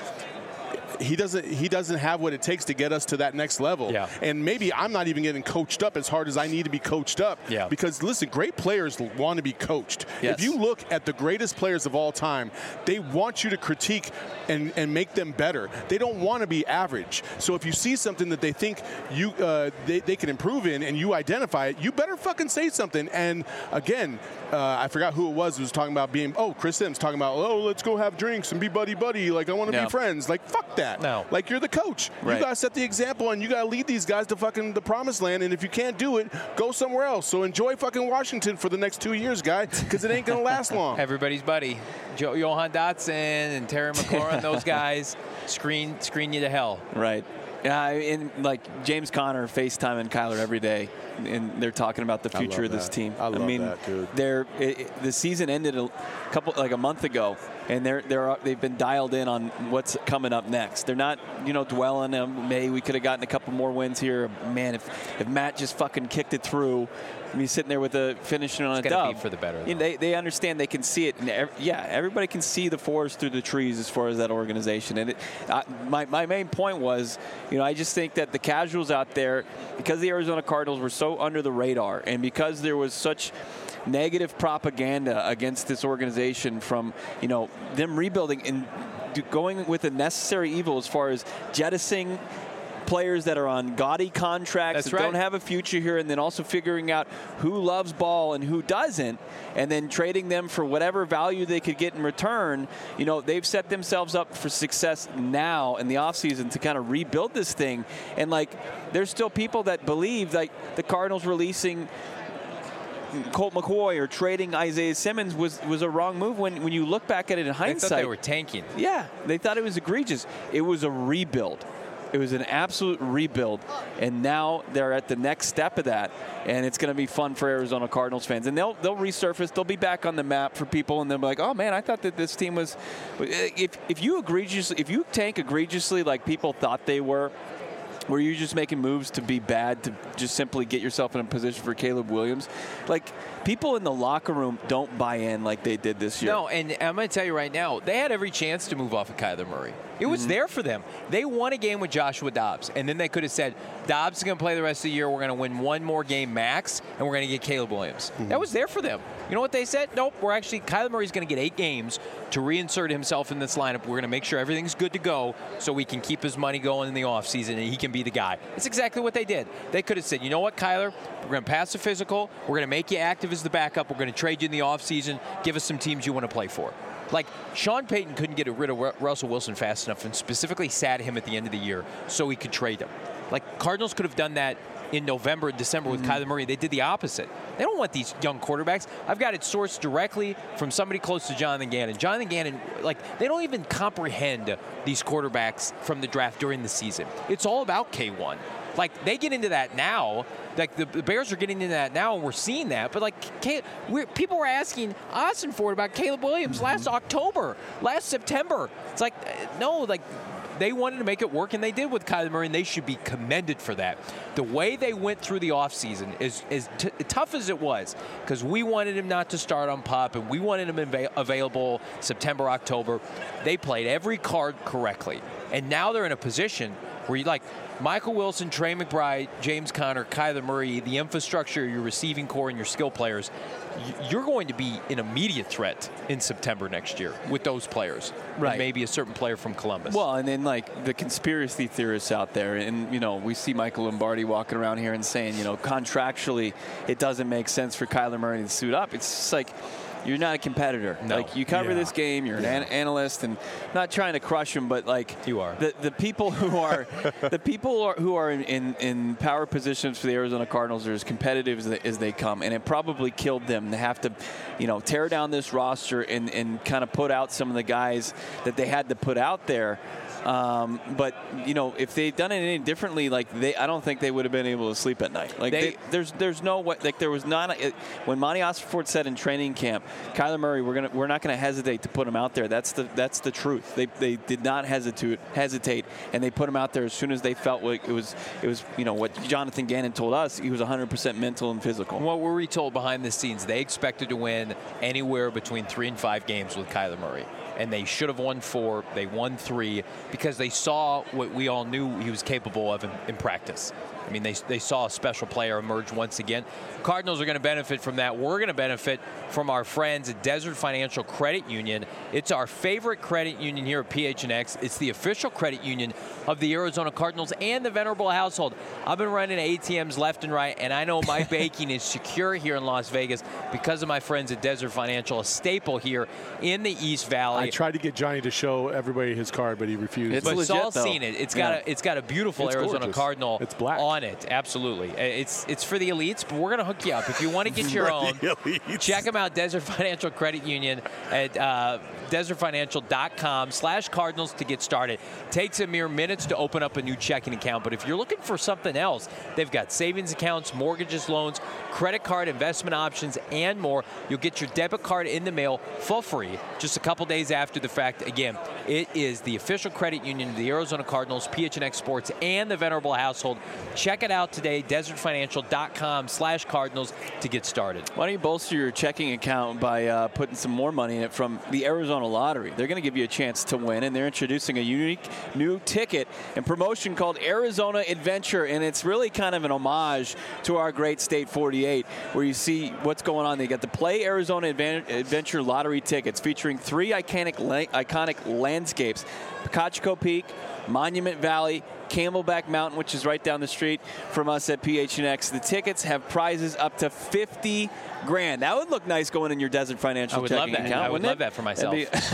he doesn't he doesn't have what it takes to get us to that next level. Yeah. And maybe I'm not even getting coached up as hard as I need to be coached up. Yeah. Because, listen, great players want to be coached. Yes. If you look at the greatest players of all time, they want you to critique and, and make them better. They don't want to be average. So if you see something that they think you uh, they, they can improve in and you identify it, you better fucking say something. And, again, uh, I forgot who it was who was talking about being, oh, Chris Sims talking about, oh, let's go have drinks and be buddy-buddy. Like, I want to yeah. be friends. Like, fuck that. No. Like, you're the coach. Right. You got to set the example, and you got to lead these guys to fucking the promised land. And if you can't do it, go somewhere else. So enjoy fucking Washington for the next two years, guy, because it ain't going to last long. Everybody's buddy. Jo- Johan Dotson and Terry McLaurin, those guys, screen screen you to hell. Right. Yeah, and like James Conner FaceTime and Kyler every day, and they're talking about the future of this that. team. I love I mean, that, dude. They're it, it, the season ended a couple like a month ago, and they're they're they've been dialed in on what's coming up next. They're not you know dwelling on May. We could have gotten a couple more wins here. Man, if if Matt just fucking kicked it through. Me sitting there with a finishing on it's a dub. Be for the better. You know, they they understand, they can see it, and every, yeah, everybody can see the forest through the trees as far as that organization. And it, I, my my main point was, you know, I just think that the casuals out there, because the Arizona Cardinals were so under the radar, and because there was such negative propaganda against this organization from you know them rebuilding and going with a necessary evil as far as jettisoning players that are on gaudy contracts That's that right. don't have a future here, and then also figuring out who loves ball and who doesn't, and then trading them for whatever value they could get in return. You know, they've set themselves up for success now in the offseason to kind of rebuild this thing. And, like, there's still people that believe, like, the Cardinals releasing Colt McCoy or trading Isaiah Simmons was, was a wrong move when, when you look back at it in hindsight. They thought they were tanking. Yeah, they thought it was egregious. It was a rebuild. It was an absolute rebuild, and now they're at the next step of that, and it's going to be fun for Arizona Cardinals fans. And they'll they'll resurface, they'll be back on the map for people, and they'll be like, oh man, I thought that this team was. If if you egregiously, if you tank egregiously like people thought they were, were you just making moves to be bad to just simply get yourself in a position for Caleb Williams? Like, people in the locker room don't buy in like they did this year. No, and I'm going to tell you right now, they had every chance to move off of Kyler Murray. It was mm-hmm. there for them. They won a game with Joshua Dobbs, and then they could have said, Dobbs is going to play the rest of the year. We're going to win one more game max, and we're going to get Caleb Williams. Mm-hmm. That was there for them. You know what they said? Nope, we're actually, Kyler Murray's going to get eight games to reinsert himself in this lineup. We're going to make sure everything's good to go so we can keep his money going in the offseason, and he can be the guy. It's exactly what they did. They could have said, you know what, Kyler? We're going to pass the physical. We're going to make you active as the backup. We're going to trade you in the offseason. Give us some teams you want to play for. Like, Sean Payton couldn't get rid of Russell Wilson fast enough and specifically sat him at the end of the year so he could trade him. Like, Cardinals could have done that in November and December with mm-hmm. Kyler Murray. They did the opposite. They don't want these young quarterbacks. I've got it sourced directly from somebody close to Jonathan Gannon. Jonathan Gannon, like, they don't even comprehend these quarterbacks from the draft during the season. It's all about K one. Like, they get into that now. Like, the, the Bears are getting into that now, and we're seeing that. But, like, Caleb, we're, people were asking Austin Ford about Caleb Williams mm-hmm. last October, last September. It's like, no, like, they wanted to make it work, and they did with Kyler Murray, and they should be commended for that. The way they went through the offseason is as t- tough as it was, because we wanted him not to start on P U P, and we wanted him inva- available September, October. They played every card correctly. And now they're in a position where you like Michael Wilson, Trey McBride, James Conner, Kyler Murray, the infrastructure, your receiving core, and your skill players, you're going to be an immediate threat in September next year with those players. Right. And maybe a certain player from Columbus. Well, and then like the conspiracy theorists out there, and you know, we see Michael Lombardi walking around here and saying, you know, contractually it doesn't make sense for Kyler Murray to suit up. It's just like, you're not a competitor. No. Like, you cover Yeah. this game, you're Yeah. an analyst, and not trying to crush them, but like You are. the the people who are the people who are, who are in, in, in power positions for the Arizona Cardinals are as competitive as they, as they come, and it probably killed them to have to, you know, tear down this roster and and kind of put out some of the guys that they had to put out there. Um, but you know, if they'd done it any differently, like they, I don't think they would have been able to sleep at night. Like They- they, there's there's no way. Like there was not a, it, when Monty Ossenfort said in training camp, Kyler Murray, we're gonna we're not gonna hesitate to put him out there. That's the that's the truth. They they did not hesitate hesitate, and they put him out there as soon as they felt like it was it was you know what Jonathan Gannon told us. He was one hundred percent mental and physical. What were we told behind the scenes? They expected to win anywhere between three and five games with Kyler Murray. And they should have won four. They won three because they saw what we all knew he was capable of in, in practice. I mean, they, they saw a special player emerge once again. Cardinals are going to benefit from that. We're going to benefit from our friends at Desert Financial Credit Union. It's our favorite credit union here at P H N X. It's the official credit union of the Arizona Cardinals and the Venerable household. I've been running A T Ms left and right, and I know my banking is secure here in Las Vegas because of my friends at Desert Financial, a staple here in the East Valley. I tried to get Johnny to show everybody his card, but he refused. It's but legit, Saul's though. seen it. It's Yeah. got a it's got a beautiful It's Arizona gorgeous. Cardinal It's black. on it. Absolutely. It's it's for the elites, but we're gonna hook you up if you want to get your For own. the elites. Check them out, Desert Financial Credit Union at uh, desert financial dot com slash Cardinals to get started. Takes a mere minutes to open up a new checking account, but if you're looking for something else, they've got savings accounts, mortgages, loans, credit card, investment options, and more. You'll get your debit card in the mail for free just a couple days after the fact. Again, it is the official credit union of the Arizona Cardinals, P H N X Sports, and the Venerable household. Check it out today, desert financial dot com slash Cardinals to get started. Why don't you bolster your checking account by uh, putting some more money in it from the Arizona Lottery? They're going to give you a chance to win, and they're introducing a unique new ticket and promotion called Arizona Adventure, and it's really kind of an homage to our great State forty-eight, where you see what's going on. They got the Play Arizona Advan- Adventure Lottery tickets featuring three iconic la- iconic landscapes: Picachico Peak, Monument Valley, Camelback Mountain, which is right down the street from us at P H N X. The tickets have prizes up to fifty grand. That would look nice going in your Desert Financial I would love checking that. account. I would wouldn't love it? that for myself.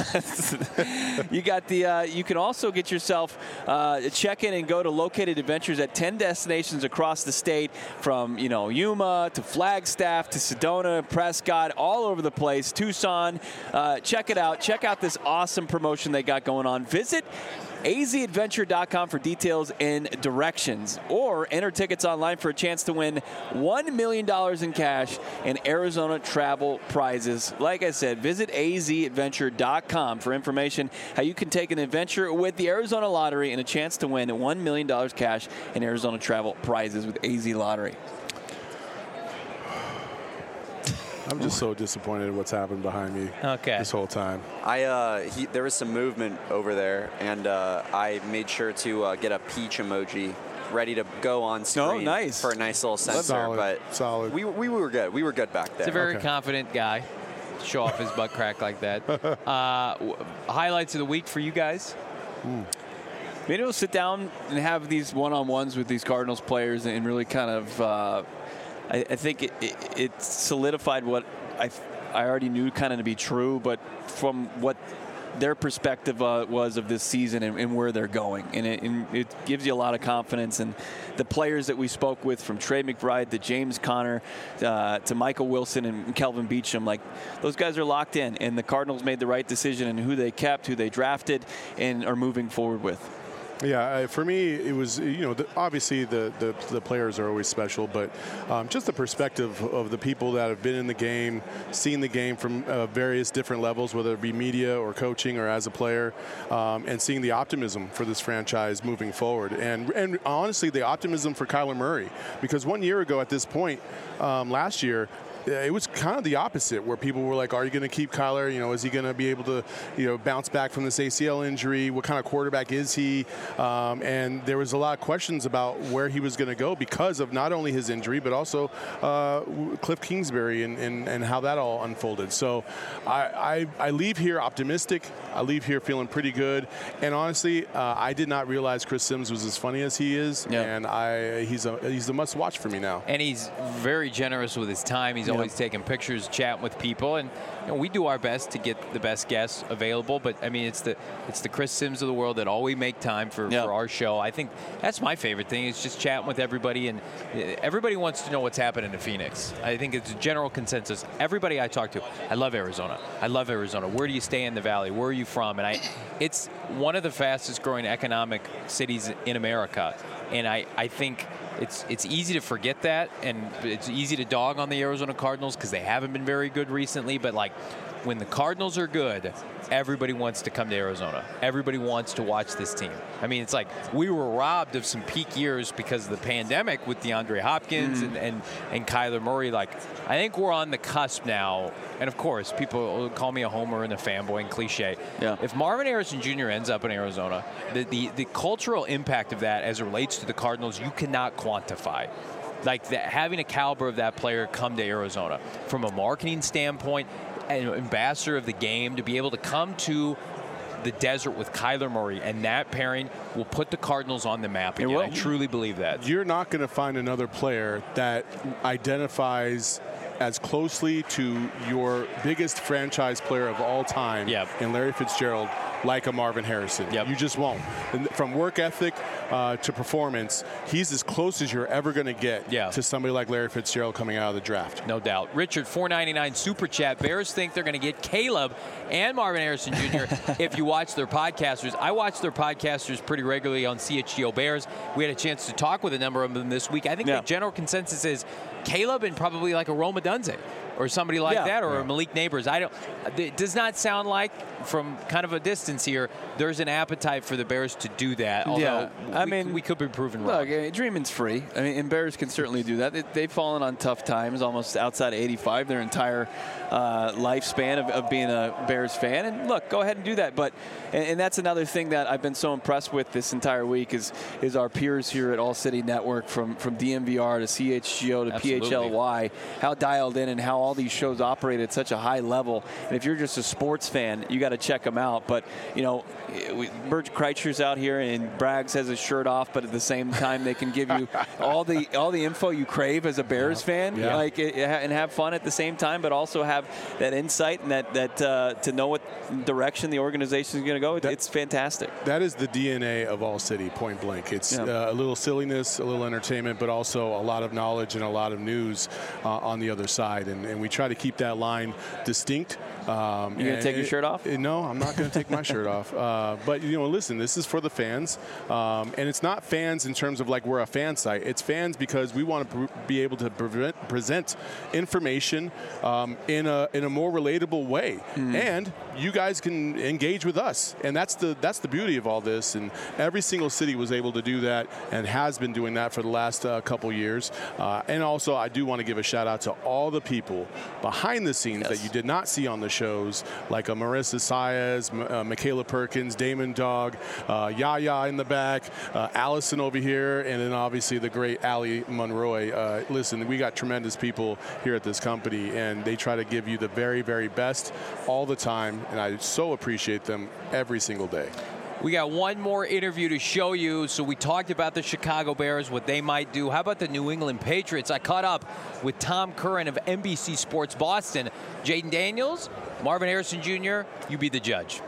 That'd be- you got the. Uh, you can also get yourself uh, a check-in and go to located adventures at ten destinations across the state, from you know Yuma to Flagstaff to Sedona, Prescott, all over the place. Tucson. Uh, check it out. Check out this awesome promotion they got going on. Visit A Z adventure dot com for details and directions, or enter tickets online for a chance to win one million dollars in cash and Arizona travel prizes. Like I said, visit A Z adventure dot com for information how you can take an adventure with the Arizona Lottery and a chance to win one million dollars cash and Arizona travel prizes with A Z Lottery. I'm just so disappointed in what's happened behind me Okay. this whole time. I uh, he, there was some movement over there, and uh, I made sure to uh, get a peach emoji ready to go on screen Oh, nice. for a nice little sensor. Solid, but solid. We, we were good. We were good back there. He's a very Okay. confident guy. Show off his butt crack like that. Uh, w- highlights of the week for you guys? Maybe we'll sit down and have these one-on-ones with these Cardinals players and really kind of, uh, I, I think it, it, it solidified what I, I already knew kind of to be true, but from what their perspective uh, was of this season and, and where they're going. And it, and it gives you a lot of confidence. And the players that we spoke with, from Trey McBride to James Conner uh, to Michael Wilson and Kelvin Beachum, like those guys are locked in. And the Cardinals made the right decision in who they kept, who they drafted, and are moving forward with. Yeah, uh, for me, it was, you know, the, obviously the, the the players are always special, but um, just the perspective of the people that have been in the game, seen the game from uh, various different levels, whether it be media or coaching or as a player, um, and seeing the optimism for this franchise moving forward. And, and honestly, the optimism for Kyler Murray, because one year ago at this point, um, last year, it was kind of the opposite, where people were like, are you going to keep Kyler? You know, is he going to be able to, you know, bounce back from this A C L injury? What kind of quarterback is he? Um, and there was a lot of questions about where he was going to go because of not only his injury, but also uh, Cliff Kingsbury and, and, and how that all unfolded. So I, I, I leave here optimistic. I leave here feeling pretty good. And honestly, uh, I did not realize Chris Sims was as funny as he is. Yeah. And I he's a he's a must watch for me now. And he's very generous with his time. He's Yeah. always taking pictures, chatting with people, and you know, we do our best to get the best guests available. But I mean, it's the it's the Chris Sims of the world that always make time for, Yeah. for our show. I think that's my favorite thing. Is just chatting with everybody, and everybody wants to know what's happening in Phoenix. I think it's a general consensus. Everybody I talk to, I love Arizona. I love Arizona. Where do you stay in the Valley? Where are you from? And I, it's one of the fastest growing economic cities in America, and I I think. It's it's easy to forget that, and it's easy to dog on the Arizona Cardinals because they haven't been very good recently. But, like, when the Cardinals are good, everybody wants to come to Arizona. Everybody wants to watch this team. I mean, it's like we were robbed of some peak years because of the pandemic with DeAndre Hopkins Mm. and, and, and Kyler Murray. Like, I think we're on the cusp now. And, of course, people call me a homer and a fanboy and cliche. Yeah. If Marvin Harrison Junior ends up in Arizona, the, the, the cultural impact of that as it relates to the Cardinals, you cannot quantify. Like, the, having a caliber of that player come to Arizona from a marketing standpoint, an ambassador of the game, to be able to come to the desert with Kyler Murray, and that pairing will put the Cardinals on the map again. I truly believe that. You're not going to find another player that identifies as closely to your biggest franchise player of all time Yep. in Larry Fitzgerald like a Marvin Harrison. Yep. You just won't. And from work ethic uh, to performance, he's as close as you're ever going to get Yeah. to somebody like Larry Fitzgerald coming out of the draft. No doubt. Richard, four ninety-nine Super Chat. Bears think they're going to get Caleb and Marvin Harrison Junior if you watch their podcasters. I watch their podcasters pretty regularly on C H G O Bears. We had a chance to talk with a number of them this week. I think Yeah. the general consensus is Caleb and probably like a Roma Dunze or somebody like Yeah. that, or Yeah. a Malik Neighbors. I don't. It does not sound like, from kind of a distance here, there's an appetite for the Bears to do that. Although Yeah. I we, mean, we could be proven wrong. Look, uh, dreaming's free. I mean, and Bears can certainly do that. They, they've fallen on tough times, almost outside of eighty-five, their entire uh, lifespan of, of being a Bears fan. And look, go ahead and do that. But and, and that's another thing that I've been so impressed with this entire week is is our peers here at All City Network, from from D M V R to C H G O to Absolutely. P H L Y, how dialed in and how all these shows operate at such a high level. And if you're just a sports fan, you got to check them out. But you know, we, Bert Kreischer's out here and Braggs has his shirt off, but at the same time they can give you all the all the info you crave as a Bears fan, Yeah. like it, and have fun at the same time, but also have that insight and that that uh, to know what direction the organization is going to go. That- It's fantastic. That is the D N A of All City, point blank. It's Yeah. uh, a little silliness, a little entertainment, but also a lot of knowledge and a lot of news uh, on the other side. And, and we try to keep that line distinct. Um, You gonna and take your it- shirt off? it- no, I'm not going to take my shirt off. Uh, but, you know, listen, this is for the fans. Um, and it's not fans in terms of like we're a fan site. It's fans because we want to pr- be able to prevent, present information um, in, a, in a more relatable way. And you guys can engage with us. And that's the, that's the beauty of all this. And every single city was able to do that and has been doing that for the last uh, couple years. Uh, and also, I do want to give a shout out to all the people behind the scenes Yes. that you did not see on the shows, like uh, Marissa Saez, M- uh, Michaela Perkins, Damon Dog, uh, Yaya in the back, uh, Allison over here, and then obviously the great Allie Monroy. Uh, listen, we got tremendous people here at this company, and they try to give you the very, very best all the time, and I so appreciate them every single day. We got one more interview to show you. So we talked about the Chicago Bears, what they might do. How about the New England Patriots? I caught up with Tom Curran of N B C Sports Boston. Jaden Daniels, Marvin Harrison Junior, you be the judge.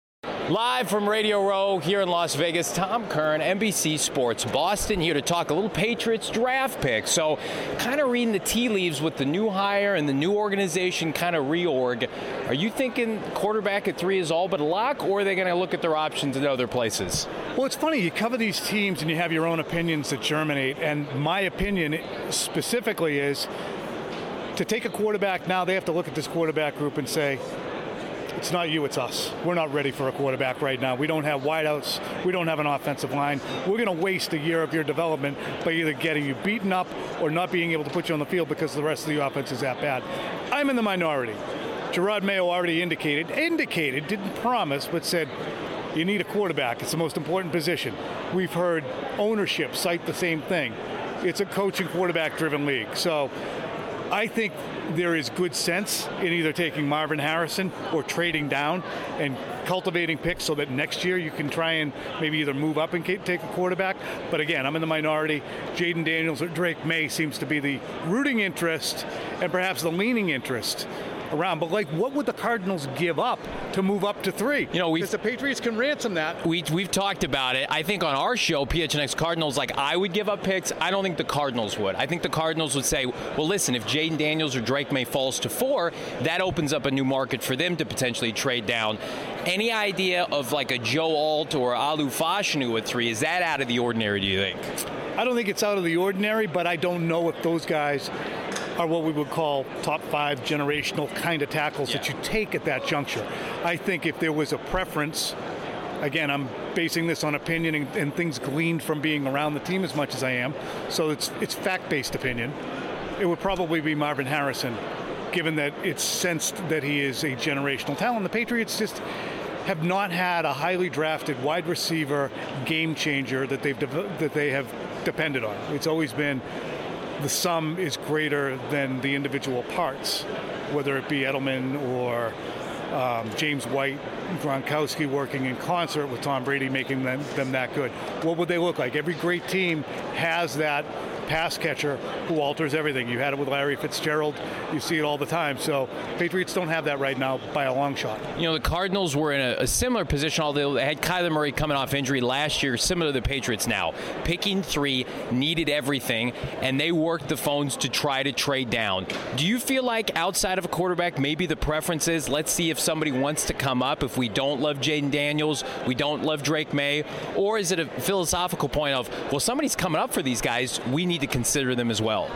Live from Radio Row here in Las Vegas, Tom Curran, N B C Sports Boston, here to talk a little Patriots draft pick. So kind of reading the tea leaves with the new hire and the new organization kind of reorg. Are you thinking quarterback at three is all but a lock, or are they going to look at their options in other places? Well, it's funny. You cover these teams and you have your own opinions that germinate. And my opinion specifically is to take a quarterback now, they have to look at this quarterback group and say, it's not you, it's us. We're not ready for a quarterback right now. We don't have wideouts. We don't have an offensive line. We're going to waste a year of your development by either getting you beaten up or not being able to put you on the field because the rest of the offense is that bad. I'm in the minority. Jerod Mayo already indicated, indicated, didn't promise, but said, you need a quarterback. It's the most important position. We've heard ownership cite the same thing. It's a coaching quarterback-driven league. So I think there is good sense in either taking Marvin Harrison or trading down and cultivating picks so that next year you can try and maybe either move up and take a quarterback. But again, I'm in the minority. Jaden Daniels or Drake May seems to be the rooting interest and perhaps the leaning interest around. But like, what would the Cardinals give up to move up to three? You know, we because the Patriots can ransom that. We we've talked about it. I think on our show, P H N X Cardinals, like I would give up picks. I don't think the Cardinals would. I think the Cardinals would say, well, listen, if Jaden Daniels or Drake May falls to four, that opens up a new market for them to potentially trade down. Any idea of like a Joe Alt or Alu Fashanu at three? Is that out of the ordinary, do you think? I don't think it's out of the ordinary, but I don't know if those guys are what we would call top five generational kind of tackles yeah. that you take at that juncture. I think if there was a preference, again, I'm basing this on opinion and, and things gleaned from being around the team as much as I am, so it's it's fact-based opinion. It would probably be Marvin Harrison, given that it's sensed that he is a generational talent. The Patriots just have not had a highly drafted wide receiver game changer that they've de- that they have depended on. It's always been the sum is greater than the individual parts, whether it be Edelman or um, James White, Gronkowski working in concert with Tom Brady, making them, them that good. What would they look like? Every great team has that pass catcher who alters everything. You had it with Larry Fitzgerald. You see it all the time. So Patriots don't have that right now by a long shot. You know, the Cardinals were in a, a similar position, although they had Kyler Murray coming off injury last year, similar to the Patriots now. Picking three, needed everything, and they worked the phones to try to trade down. Do you feel like outside of a quarterback, maybe the preference is, let's see if somebody wants to come up, if we don't love Jaden Daniels, we don't love Drake May, or is it a philosophical point of, well, somebody's coming up for these guys, we need to consider them as well?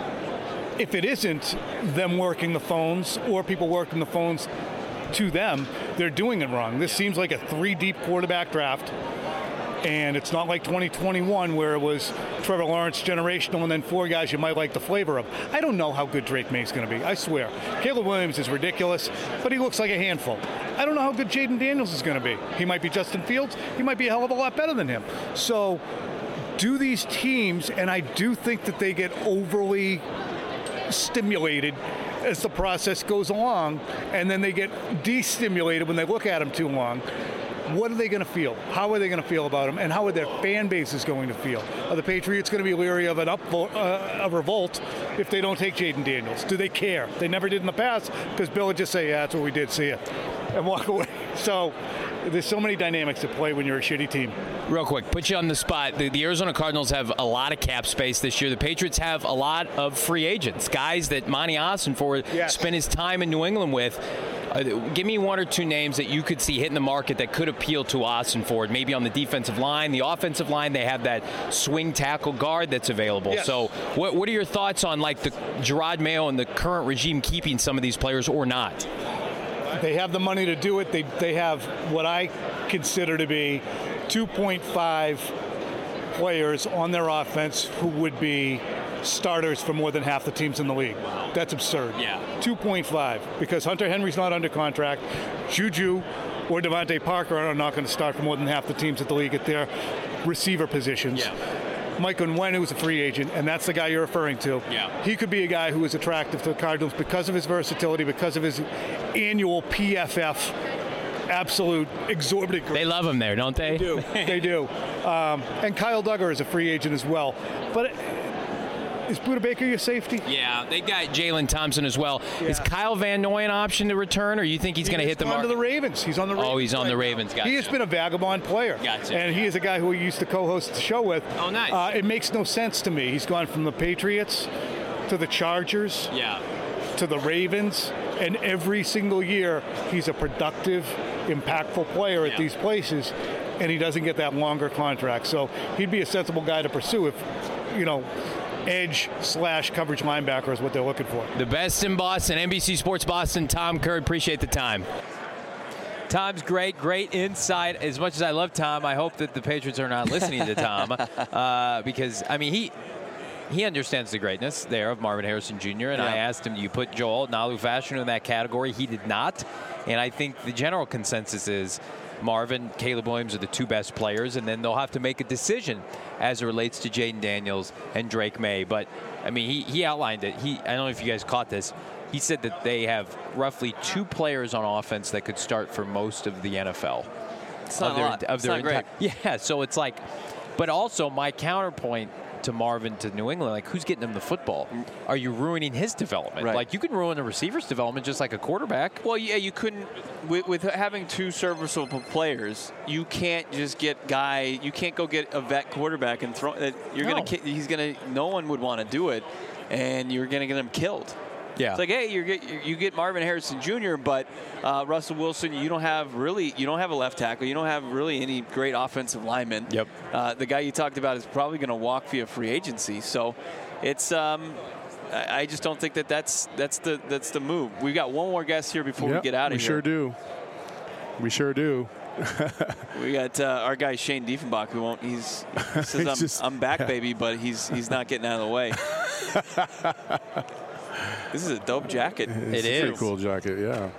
If it isn't them working the phones or people working the phones to them, they're doing it wrong. This seems like a three-deep quarterback draft, and it's not like twenty twenty-one where it was Trevor Lawrence generational and then four guys you might like the flavor of. I don't know how good Drake May's going to be, I swear. Caleb Williams is ridiculous, but he looks like a handful. I don't know how good Jaden Daniels is going to be. He might be Justin Fields. He might be a hell of a lot better than him. So do these teams, and I do think that they get overly stimulated as the process goes along, and then they get destimulated when they look at them too long. What are they going to feel? How are they going to feel about them? And how are their fan bases going to feel? Are the Patriots going to be leery of an upvote, uh, a revolt if they don't take Jaden Daniels? Do they care? They never did in the past because Bill would just say, yeah, that's what we did, see ya, and walk away. So there's so many dynamics at play when you're a shitty team. Real quick, put you on the spot. The, the Arizona Cardinals have a lot of cap space this year. The Patriots have a lot of free agents, guys that Monty Ossenfort yes. spent his time in New England with. Uh, give me one or two names that you could see hitting the market that could appeal to Ossenfort. Maybe on the defensive line, the offensive line, they have that swing tackle guard that's available. Yes. So what, what are your thoughts on like the Jerod Mayo and the current regime keeping some of these players or not? They have the money to do it. They they have what I consider to be two point five players on their offense who would be starters for more than half the teams in the league. That's absurd. Yeah. two point five, because Hunter Henry's not under contract. Juju or Devontae Parker are not going to start for more than half the teams at the league at their receiver positions. Yeah. Mike Onwenu is a free agent, and that's the guy you're referring to. Yeah. He could be a guy who is attractive to the Cardinals because of his versatility, because of his annual P F F absolute exorbitant. They love him there, don't they? They do. They do. Um, and Kyle Duggar is a free agent as well. But is Buda Baker your safety? Yeah, they got Jalen Thompson as well. Yeah. Is Kyle Van Noy an option to return, or you think he's he going to hit the market? He's on to the Ravens. He's on the Ravens. Oh, he's on right the now. Ravens. Gotcha. He has been a vagabond player. Gotcha. And he is a guy who we used to co-host the show with. Oh, nice. Uh, it makes no sense to me. He's gone from the Patriots to the Chargers yeah. to the Ravens, and every single year he's a productive, impactful player at yeah. these places, and he doesn't get that longer contract. So he'd be a sensible guy to pursue if, you know, edge slash coverage linebacker is what they're looking for. The best in Boston, N B C Sports Boston, Tom Curd. Appreciate the time. Tom's great, great insight. As much as I love Tom, I hope that the Patriots are not listening to Tom uh, because, I mean, he he understands the greatness there of Marvin Harrison Junior And yeah. I asked him, do you put Joel Nalu-Fashanu in that category? He did not. And I think the general consensus is Marvin, Caleb Williams are the two best players, and then they'll have to make a decision as it relates to Jaden Daniels and Drake May. But, I mean, he, he outlined it. He, I don't know if you guys caught this. He said that they have roughly two players on offense that could start for most of the N F L. It's not of a their, lot. Of It's their not great. Yeah, so it's like, but also my counterpoint to Marvin to New England, like who's getting him the football? Are you ruining his development? Right. Like you can ruin a receiver's development just like a quarterback. Well, yeah, you couldn't with, with having two serviceable players. You can't just get guy. You can't go get a vet quarterback and throw. That you're No. gonna. ki- He's gonna. No one would want to do it, and you're gonna get him killed. Yeah. It's like, hey, you get you get Marvin Harrison Junior, but uh, Russell Wilson, you don't have really, you don't have a left tackle, you don't have really any great offensive linemen. Yep. Uh, the guy you talked about is probably going to walk via free agency, so it's. Um, I I just don't think that that's that's the that's the move. We've got one more guest here before Yep, we get out of we here. sure do. We sure do. We got uh, our guy Shane Diefenbach, who won't. He's he says He's I'm, just- I'm back, yeah. baby, but he's he's not getting out of the way. This is a dope jacket. It's It a pretty is. cool jacket, yeah.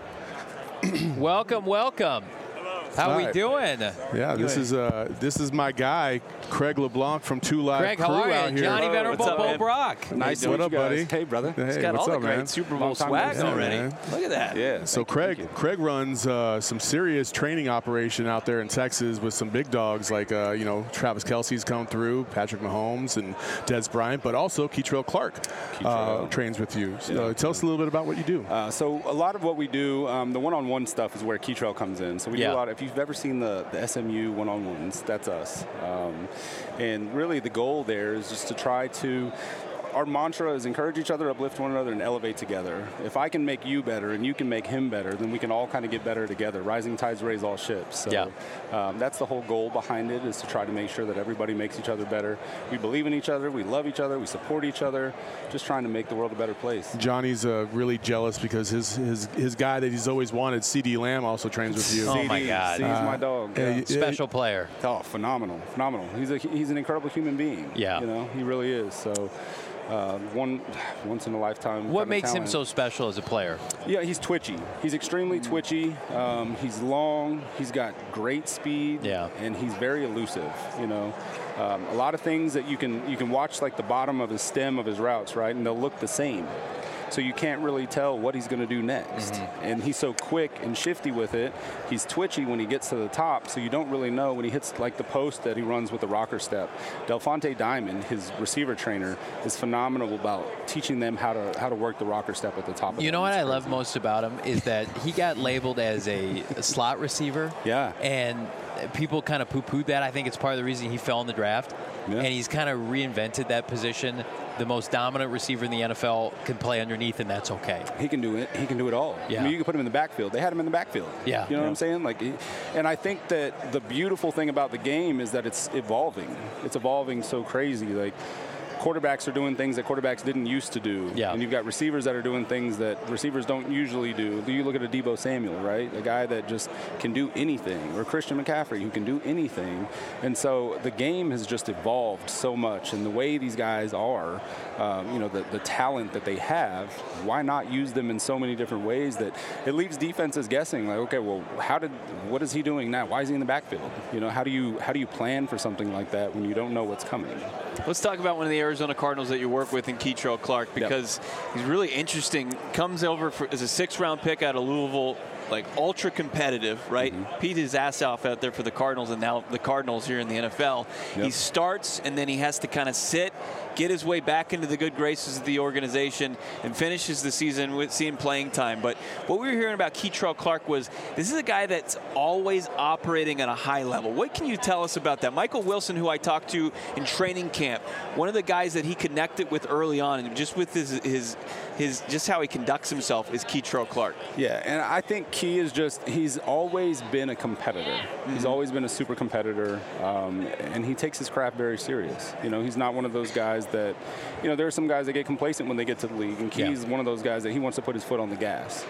Welcome, welcome. How we Hi. doing? Yeah, this is uh, this is my guy, Craig LeBlanc from Two Live Craig, Crew how are out you? here. Johnny Hello, Venerable, what's up, Bo man? Brock. Nice to What meet up, you guys. buddy? Hey, brother. Hey, He's got what's all up, the great man? Super Bowl Long time swag no see. already. man. Look at that. Yeah. So Craig, Craig runs uh, some serious training operation out there in Texas with some big dogs like uh, you know Travis Kelce's come through, Patrick Mahomes and Des Bryant, but also Keitrell Clark uh, Keitrell. trains with you. So, Yeah. uh, tell us a little bit about what you do. Uh, so a lot of what we do, um, the one-on-one stuff is where Keitrell comes in. So we Yeah. do a lot. If you've ever seen the, the S M U one-on-ones, that's us. Um, and really the goal there is just to try to, our mantra is encourage each other, uplift one another, and elevate together. If I can make you better and you can make him better, then we can all kind of get better together. Rising tides raise all ships. So Yeah. um, that's the whole goal behind it, is to try to make sure that everybody makes each other better. We believe in each other, we love each other, we support each other, just trying to make the world a better place. Johnny's uh, really jealous because his, his his guy that he's always wanted, C D Lamb, also trains with you. Oh, my C D, God. C's Uh, my dog. yeah, Yeah. you- Special player. Oh, phenomenal, phenomenal. He's a he's an incredible human being. Yeah. You know, he really is. So, uh, one once in a lifetime. What kinda makes him talent. so special as a player? Yeah, he's twitchy. He's extremely twitchy. Um, he's long. He's got great speed. Yeah. And he's very elusive. You know, um, a lot of things that you can you can watch like the bottom of his stem of his routes, right, and they'll look the same. So you can't really tell what he's going to do next. Mm-hmm. And he's so quick and shifty with it. He's twitchy when he gets to the top, so you don't really know when he hits like the post that he runs with the rocker step. Delphonte Diamond, his receiver trainer, is phenomenal about teaching them how to how to work the rocker step at the top of You them. know what It's I love crazy. most about him is that he got labeled as a, a slot receiver. Yeah. And people kind of poo-pooed that. I think it's part of the reason he fell in the draft. Yeah. And he's kind of reinvented that position. The most dominant receiver in the N F L can play underneath, and that's okay. He can do it. He can do it all. Yeah. I mean, you can put him in the backfield. They had him in the backfield. Yeah. You know Yeah. what I'm saying? Like, he, and I think that the beautiful thing about the game is that it's evolving. It's evolving so crazy. Like, quarterbacks are doing things that quarterbacks didn't used to do. Yeah. And you've got receivers that are doing things that receivers don't usually do. You look at a Deebo Samuel, right? A guy that just can do anything. Or Christian McCaffrey, who can do anything. And so the game has just evolved so much. And the way these guys are, um, you know, the, the talent that they have, why not use them in so many different ways that it leaves defenses guessing, like, okay, well, how did, what is he doing now? Why is he in the backfield? You know, how do you, how do you plan for something like that when you don't know what's coming? Let's talk about one of the Arizona Cardinals that you work with in Keitrell Clark, because yep. he's really interesting. Comes over for, as a six-round pick out of Louisville, like ultra competitive, right? Mm-hmm. Beat his ass off out there for the Cardinals, and now the Cardinals here in the N F L. Yep. He starts, and then he has to kind of sit, get his way back into the good graces of the organization, and finishes the season with seeing playing time. But what we were hearing about Keitrell Clark was this is a guy that's always operating at a high level. What can you tell us about that? Michael Wilson, who I talked to in training camp, one of the guys that he connected with early on, and just with his his his just how he conducts himself, is Keitrell Clark. Yeah, and I think Key is just, he's always been a competitor. Mm-hmm. He's always been a super competitor, um, and he takes his craft very serious. You know, he's not one of those guys that, you know, there are some guys that get complacent when they get to the league, and Key's yeah. one of those guys that he wants to put his foot on the gas.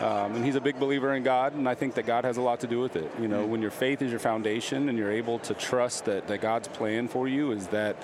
Um, and he's a big believer in God, and I think that God has a lot to do with it. You know, mm. when your faith is your foundation and you're able to trust that, that God's plan for you is that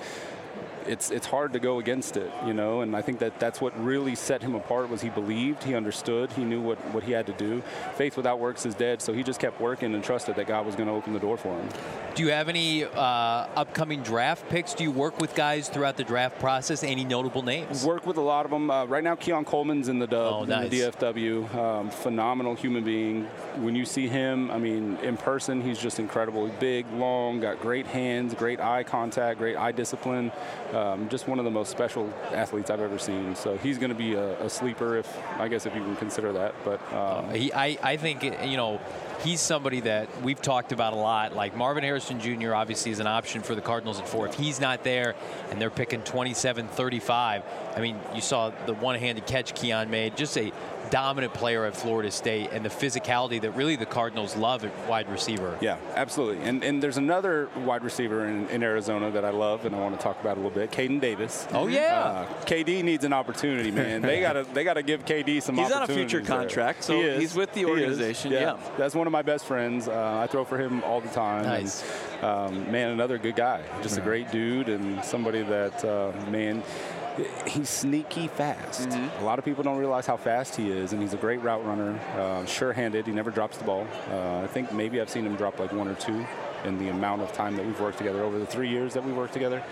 it's it's hard to go against it, you know, and I think that that's what really set him apart was he believed, he understood, he knew what, what he had to do. Faith without works is dead, so he just kept working and trusted that God was going to open the door for him. Do you have any uh, upcoming draft picks? Do you work with guys throughout the draft process? Any notable names? Work with a lot of them. Uh, right now, Keon Coleman's in the Dub, oh, in nice. the D F W. Um, phenomenal human being. When you see him, I mean, in person, he's just incredible. He's big, long, got great hands, great eye contact, great eye discipline. Um, just one of the most special athletes I've ever seen. So he's going to be a, a sleeper, if I guess if you can consider that. But um, uh, he, I, I think you know. He's somebody that we've talked about a lot. Like Marvin Harrison Junior obviously is an option for the Cardinals at four. If he's not there and they're picking twenty-seven thirty-five, I mean, you saw the one-handed catch Keon made. Just a dominant player at Florida State and the physicality that really the Cardinals love at wide receiver. Yeah, absolutely. And and there's another wide receiver in, in Arizona that I love and I want to talk about a little bit, Caden Davis. Oh, yeah. Uh, K D needs an opportunity, man. They got to they got to give K D some he's opportunities. He's on a future contract, there. so he he's with the organization. Yeah. yeah. That's one of my best friends. Uh, I throw for him all the time. Nice. And, um, man, another good guy. Just a great dude and somebody that, uh, man, he's sneaky fast. Mm-hmm. A lot of people don't realize how fast he is, and he's a great route runner, uh, sure-handed. He never drops the ball. Uh, I think maybe I've seen him drop like one or two in the amount of time that we've worked together over the three years that we worked together.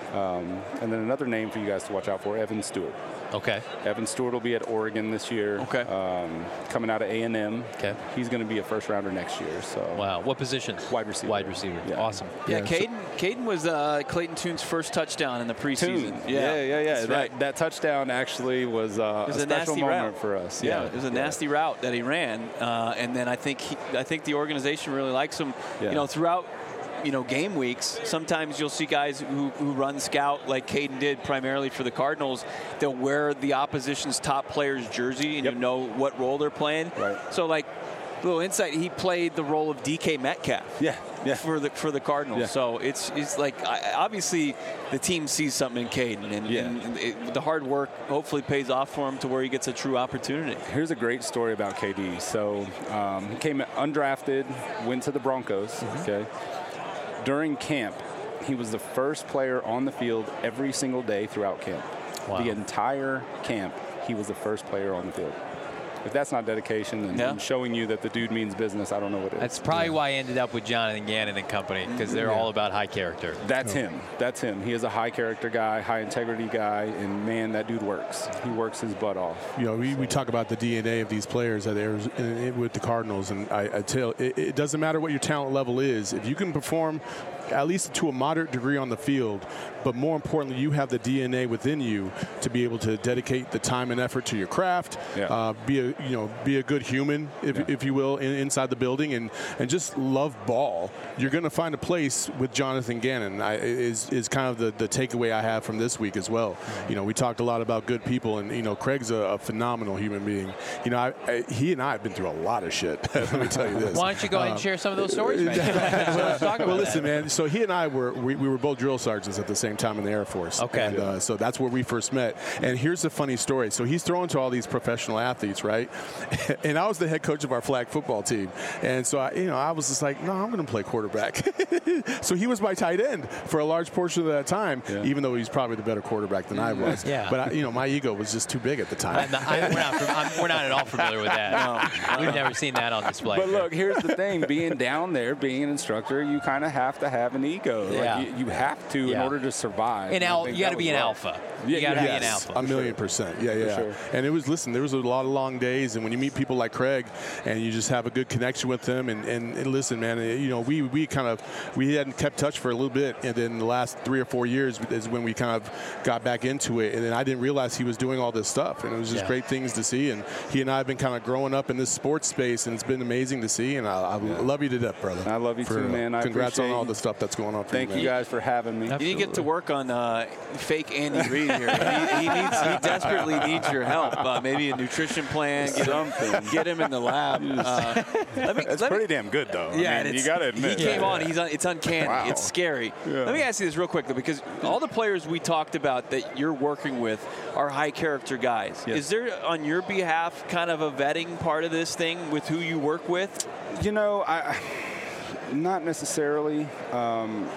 Um, and then another name for you guys to watch out for, Evan Stewart. Okay. Evan Stewart will be at Oregon this year. Okay. Um, coming out of A and M. Okay. He's going to be a first rounder next year. So. Wow. What position? Wide receiver. Wide receiver. Yeah. Awesome. Yeah, Yeah, Caden, Caden was uh, Clayton Tune's first touchdown in the preseason. Tune. Yeah, yeah, yeah. yeah. That's that, right. that touchdown actually was, uh, it was a a, special nasty moment route for us. Yeah, Yeah, it was a yeah. nasty route that he ran, uh, and then I think he, I think the organization really likes him. Yeah. You know, throughout. You know, game weeks, sometimes you'll see guys who, who run scout like Caden did primarily for the Cardinals. They'll wear the opposition's top player's jersey and yep. you know what role they're playing. Right. So, like, little insight, he played the role of D K Metcalf. Yeah. Yeah. For the for the Cardinals. Yeah. So it's it's like I, obviously the team sees something in Caden, and, yeah. and it, the hard work hopefully pays off for him to where he gets a true opportunity. Here's a great story about K D. So um, he came undrafted, went to the Broncos. Mm-hmm. Okay. During camp, he was the first player on the field every single day throughout camp. Wow. The entire camp, he was the first player on the field. If that's not dedication and, yeah. and showing you that the dude means business, I don't know what it is. That's probably yeah. why I ended up with Jonathan Gannon and company, because they're yeah. all about high character. That's oh. him. That's him. He is a high character guy, high integrity guy, and man, that dude works. He works his butt off. You know, we, so. we talk about the D N A of these players that are with the Cardinals, and I, I tell it, it doesn't matter what your talent level is. If you can perform at least to a moderate degree on the field, but more importantly, you have the D N A within you to be able to dedicate the time and effort to your craft, yeah. uh, be a you know be a good human, if, yeah. if you will, in, inside the building, and and just love ball. You're going to find a place with Jonathan Gannon. I, is is kind of the, the takeaway I have from this week as well. You know, we talked a lot about good people, and you know, Craig's a, a phenomenal human being. You know, I, I, he and I have been through a lot of shit. Let me tell you this. Why don't you go ahead and share some of those stories, man? Let's talk about well, listen, that. man. So he and I were we, we were both drill sergeants at the same time in the Air Force. Okay. And uh, so that's where we first met. And here's the funny story. So he's throwing to all these professional athletes, right? And I was the head coach of our flag football team. And so I, you know, I was just like, no, I'm going to play quarterback. So he was my tight end for a large portion of that time, yeah. even though he's probably the better quarterback than I was. Yeah. But I, you know, my ego was just too big at the time. I'm not, I'm, we're, not, I'm, we're not at all familiar with that. No. We've never seen that on display. But look, here's the thing: being down there, being an instructor, you kind of have to have an ego. Yeah. Like you, you have to yeah. in order to survive. And al- you got to be an rough. alpha. Yeah, you got to yes. be an alpha. A million sure. percent. Yeah, yeah. Sure. And it was, listen, there was a lot of long days, and when you meet people like Craig and you just have a good connection with them, and, and, and listen, man, you know, we, we kind of, we hadn't kept touch for a little bit, and then the last three or four years is when we kind of got back into it, and then I didn't realize he was doing all this stuff, and it was just yeah. great things to see, and he and I have been kind of growing up in this sports space, and it's been amazing to see, and I, I yeah. love you to death, brother. I love you for, too, man. I congrats on all you. the stuff stuff that's going on for Thank you, you man. guys for having me. You need to get to work on uh, fake Andy Reid here. he, he needs, he desperately needs your help. Uh, maybe a nutrition plan. Get him, get him in the lab. Uh, let me, That's let pretty me, damn good, though. Yeah, I mean, it's, you got to admit. he came that. on. He's un, it's uncanny. Wow. It's scary. Yeah. Let me ask you this real quick, though, because all the players we talked about that you're working with are high character guys. Yes. Is there, on your behalf, kind of a vetting part of this thing with who you work with? You know, I not necessarily. Um,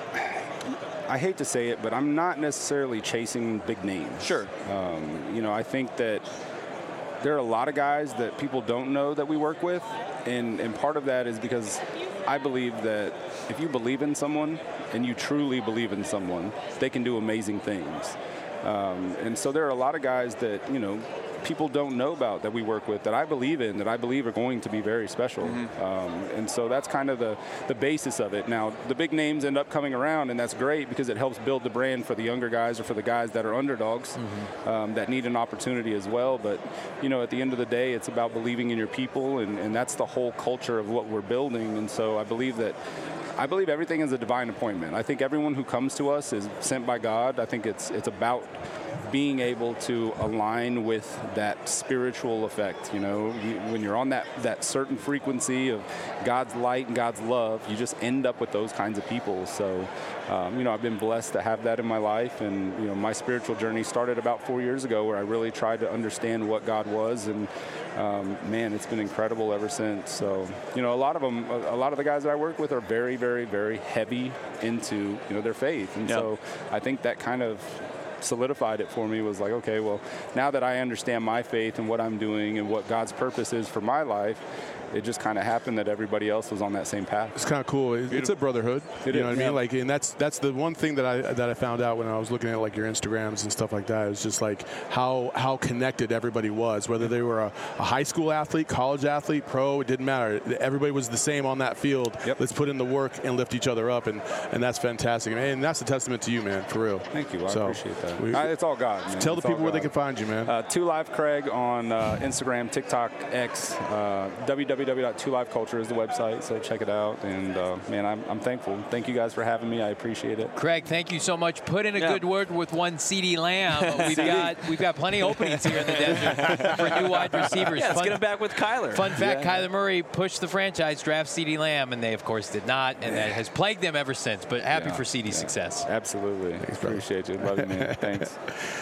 I hate to say it, but I'm not necessarily chasing big names. Sure. Um, you know, I think that there are a lot of guys that people don't know that we work with, and, and part of that is because I believe that if you believe in someone and you truly believe in someone, they can do amazing things. Um, and so there are a lot of guys that, you know, people don't know about that we work with that I believe in, that I believe are going to be very special. Mm-hmm. um, and so that's kind of the, the basis of it. Now, the big names end up coming around, and that's great because it helps build the brand for the younger guys or for the guys that are underdogs mm-hmm. um, that need an opportunity as well. But, you know, at the end of the day, it's about believing in your people, and, and that's the whole culture of what we're building. And so I believe that I believe everything is a divine appointment. I think everyone who comes to us is sent by God. I think it's it's about being able to align with that spiritual effect. You know, you, when you're on that, that certain frequency of God's light and God's love, you just end up with those kinds of people. So, um, you know, I've been blessed to have that in my life. And, you know, my spiritual journey started about four years ago where I really tried to understand what God was. And, um, man, it's been incredible ever since. So, you know, a lot of them, a, a lot of the guys that I work with are very, very, very heavy into, you know, their faith. And yep. so I think that kind of solidified it for me. Was like, okay, well, now that I understand my faith and what I'm doing and what God's purpose is for my life, it just kind of happened that everybody else was on that same path. It's kind of cool. It's, it's a brotherhood. It you is, know what yeah. I mean? Like, and that's that's the one thing that I that I found out when I was looking at like your Instagrams and stuff like that. It was just like how how connected everybody was, whether they were a, a high school athlete, college athlete, pro. It didn't matter. Everybody was the same on that field. Yep. Let's put in the work and lift each other up, and and that's fantastic. And that's a testament to you, man, for real. Thank you. I so, appreciate that. We, I, it's all God, man. Tell it's the people where God. they can find you, man. Uh, two Live Craig on uh, Instagram, TikTok, X, uh, w w w dot two live culture is the website, so check it out. And, uh, man, I'm, I'm thankful. Thank you guys for having me. I appreciate it. Craig, thank you so much. Put in a yeah. good word with one CeeDee Lamb. We've got we've got plenty of openings here in the desert for new wide receivers. Yeah, let's fun, get him back with Kyler. Fun fact, yeah. Kyler Murray pushed the franchise, draft CeeDee Lamb, and they, of course, did not, and that has plagued them ever since. But happy Yeah, for CeeDee's yeah. success. Absolutely. Thanks, appreciate you. Love you, man. Thanks.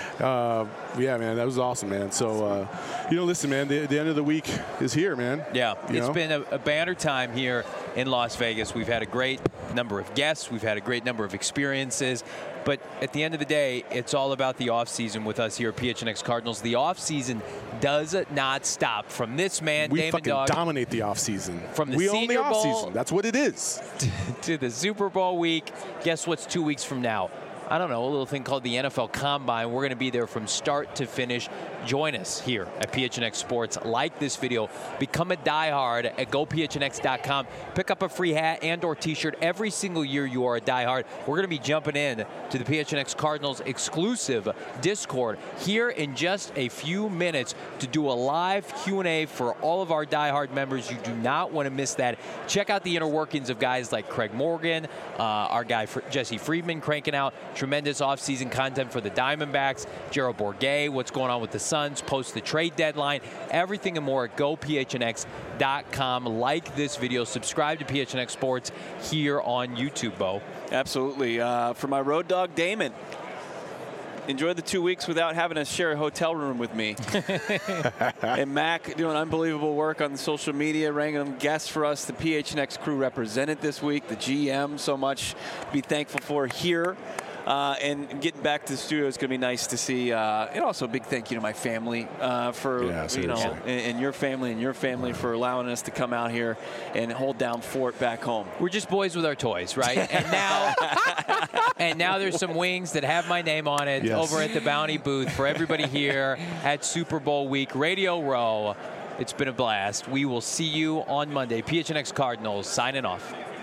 Uh, yeah, man, that was awesome, man. So, uh, you know, listen, man, the, the end of the week is here, man. Yeah, You it's know? been a, a banner time here in Las Vegas. We've had a great number of guests. We've had a great number of experiences. But at the end of the day, it's all about the offseason with us here at P H N X Cardinals. The offseason does not stop. From this man, We Damon fucking Dog, dominate the offseason. From the we Senior own the Bowl- offseason. That's what it is. to the Super Bowl week. Guess what's two weeks from now? I don't know, a little thing called the N F L Combine. We're going to be there from start to finish. Join us here at P H N X Sports. Like this video. Become a diehard at go P H N X dot com. Pick up a free hat and or T-shirt every single year you are a diehard. We're going to be jumping in to the P H N X Cardinals exclusive Discord here in just a few minutes to do a live Q and A for all of our diehard members. You do not want to miss that. Check out the inner workings of guys like Craig Morgan, uh, our guy Jesse Friedman cranking out tremendous offseason content for the Diamondbacks, Gerald Bourguet, what's going on with the Suns, post the trade deadline, everything and more at go P H N X dot com. Like this video, subscribe to P H N X Sports here on YouTube, Bo. Absolutely. Uh, for my road dog, Damon, enjoy the two weeks without having to share a hotel room with me. And Mac doing unbelievable work on the social media, random guests for us. The P H N X crew represented this week. The G M, so much to be thankful for here. Uh, and getting back to the studio is going to be nice to see. Uh, and also a big thank you to my family uh, for, Yeah, you know, seriously. and, and your family and your family for allowing us to come out here and hold down fort back home. We're just boys with our toys, right? And now, and now there's some wings that have my name on it Yes. over at the Bounty booth for everybody here at Super Bowl week. Radio Row, it's been a blast. We will see you on Monday. P H N X Cardinals signing off.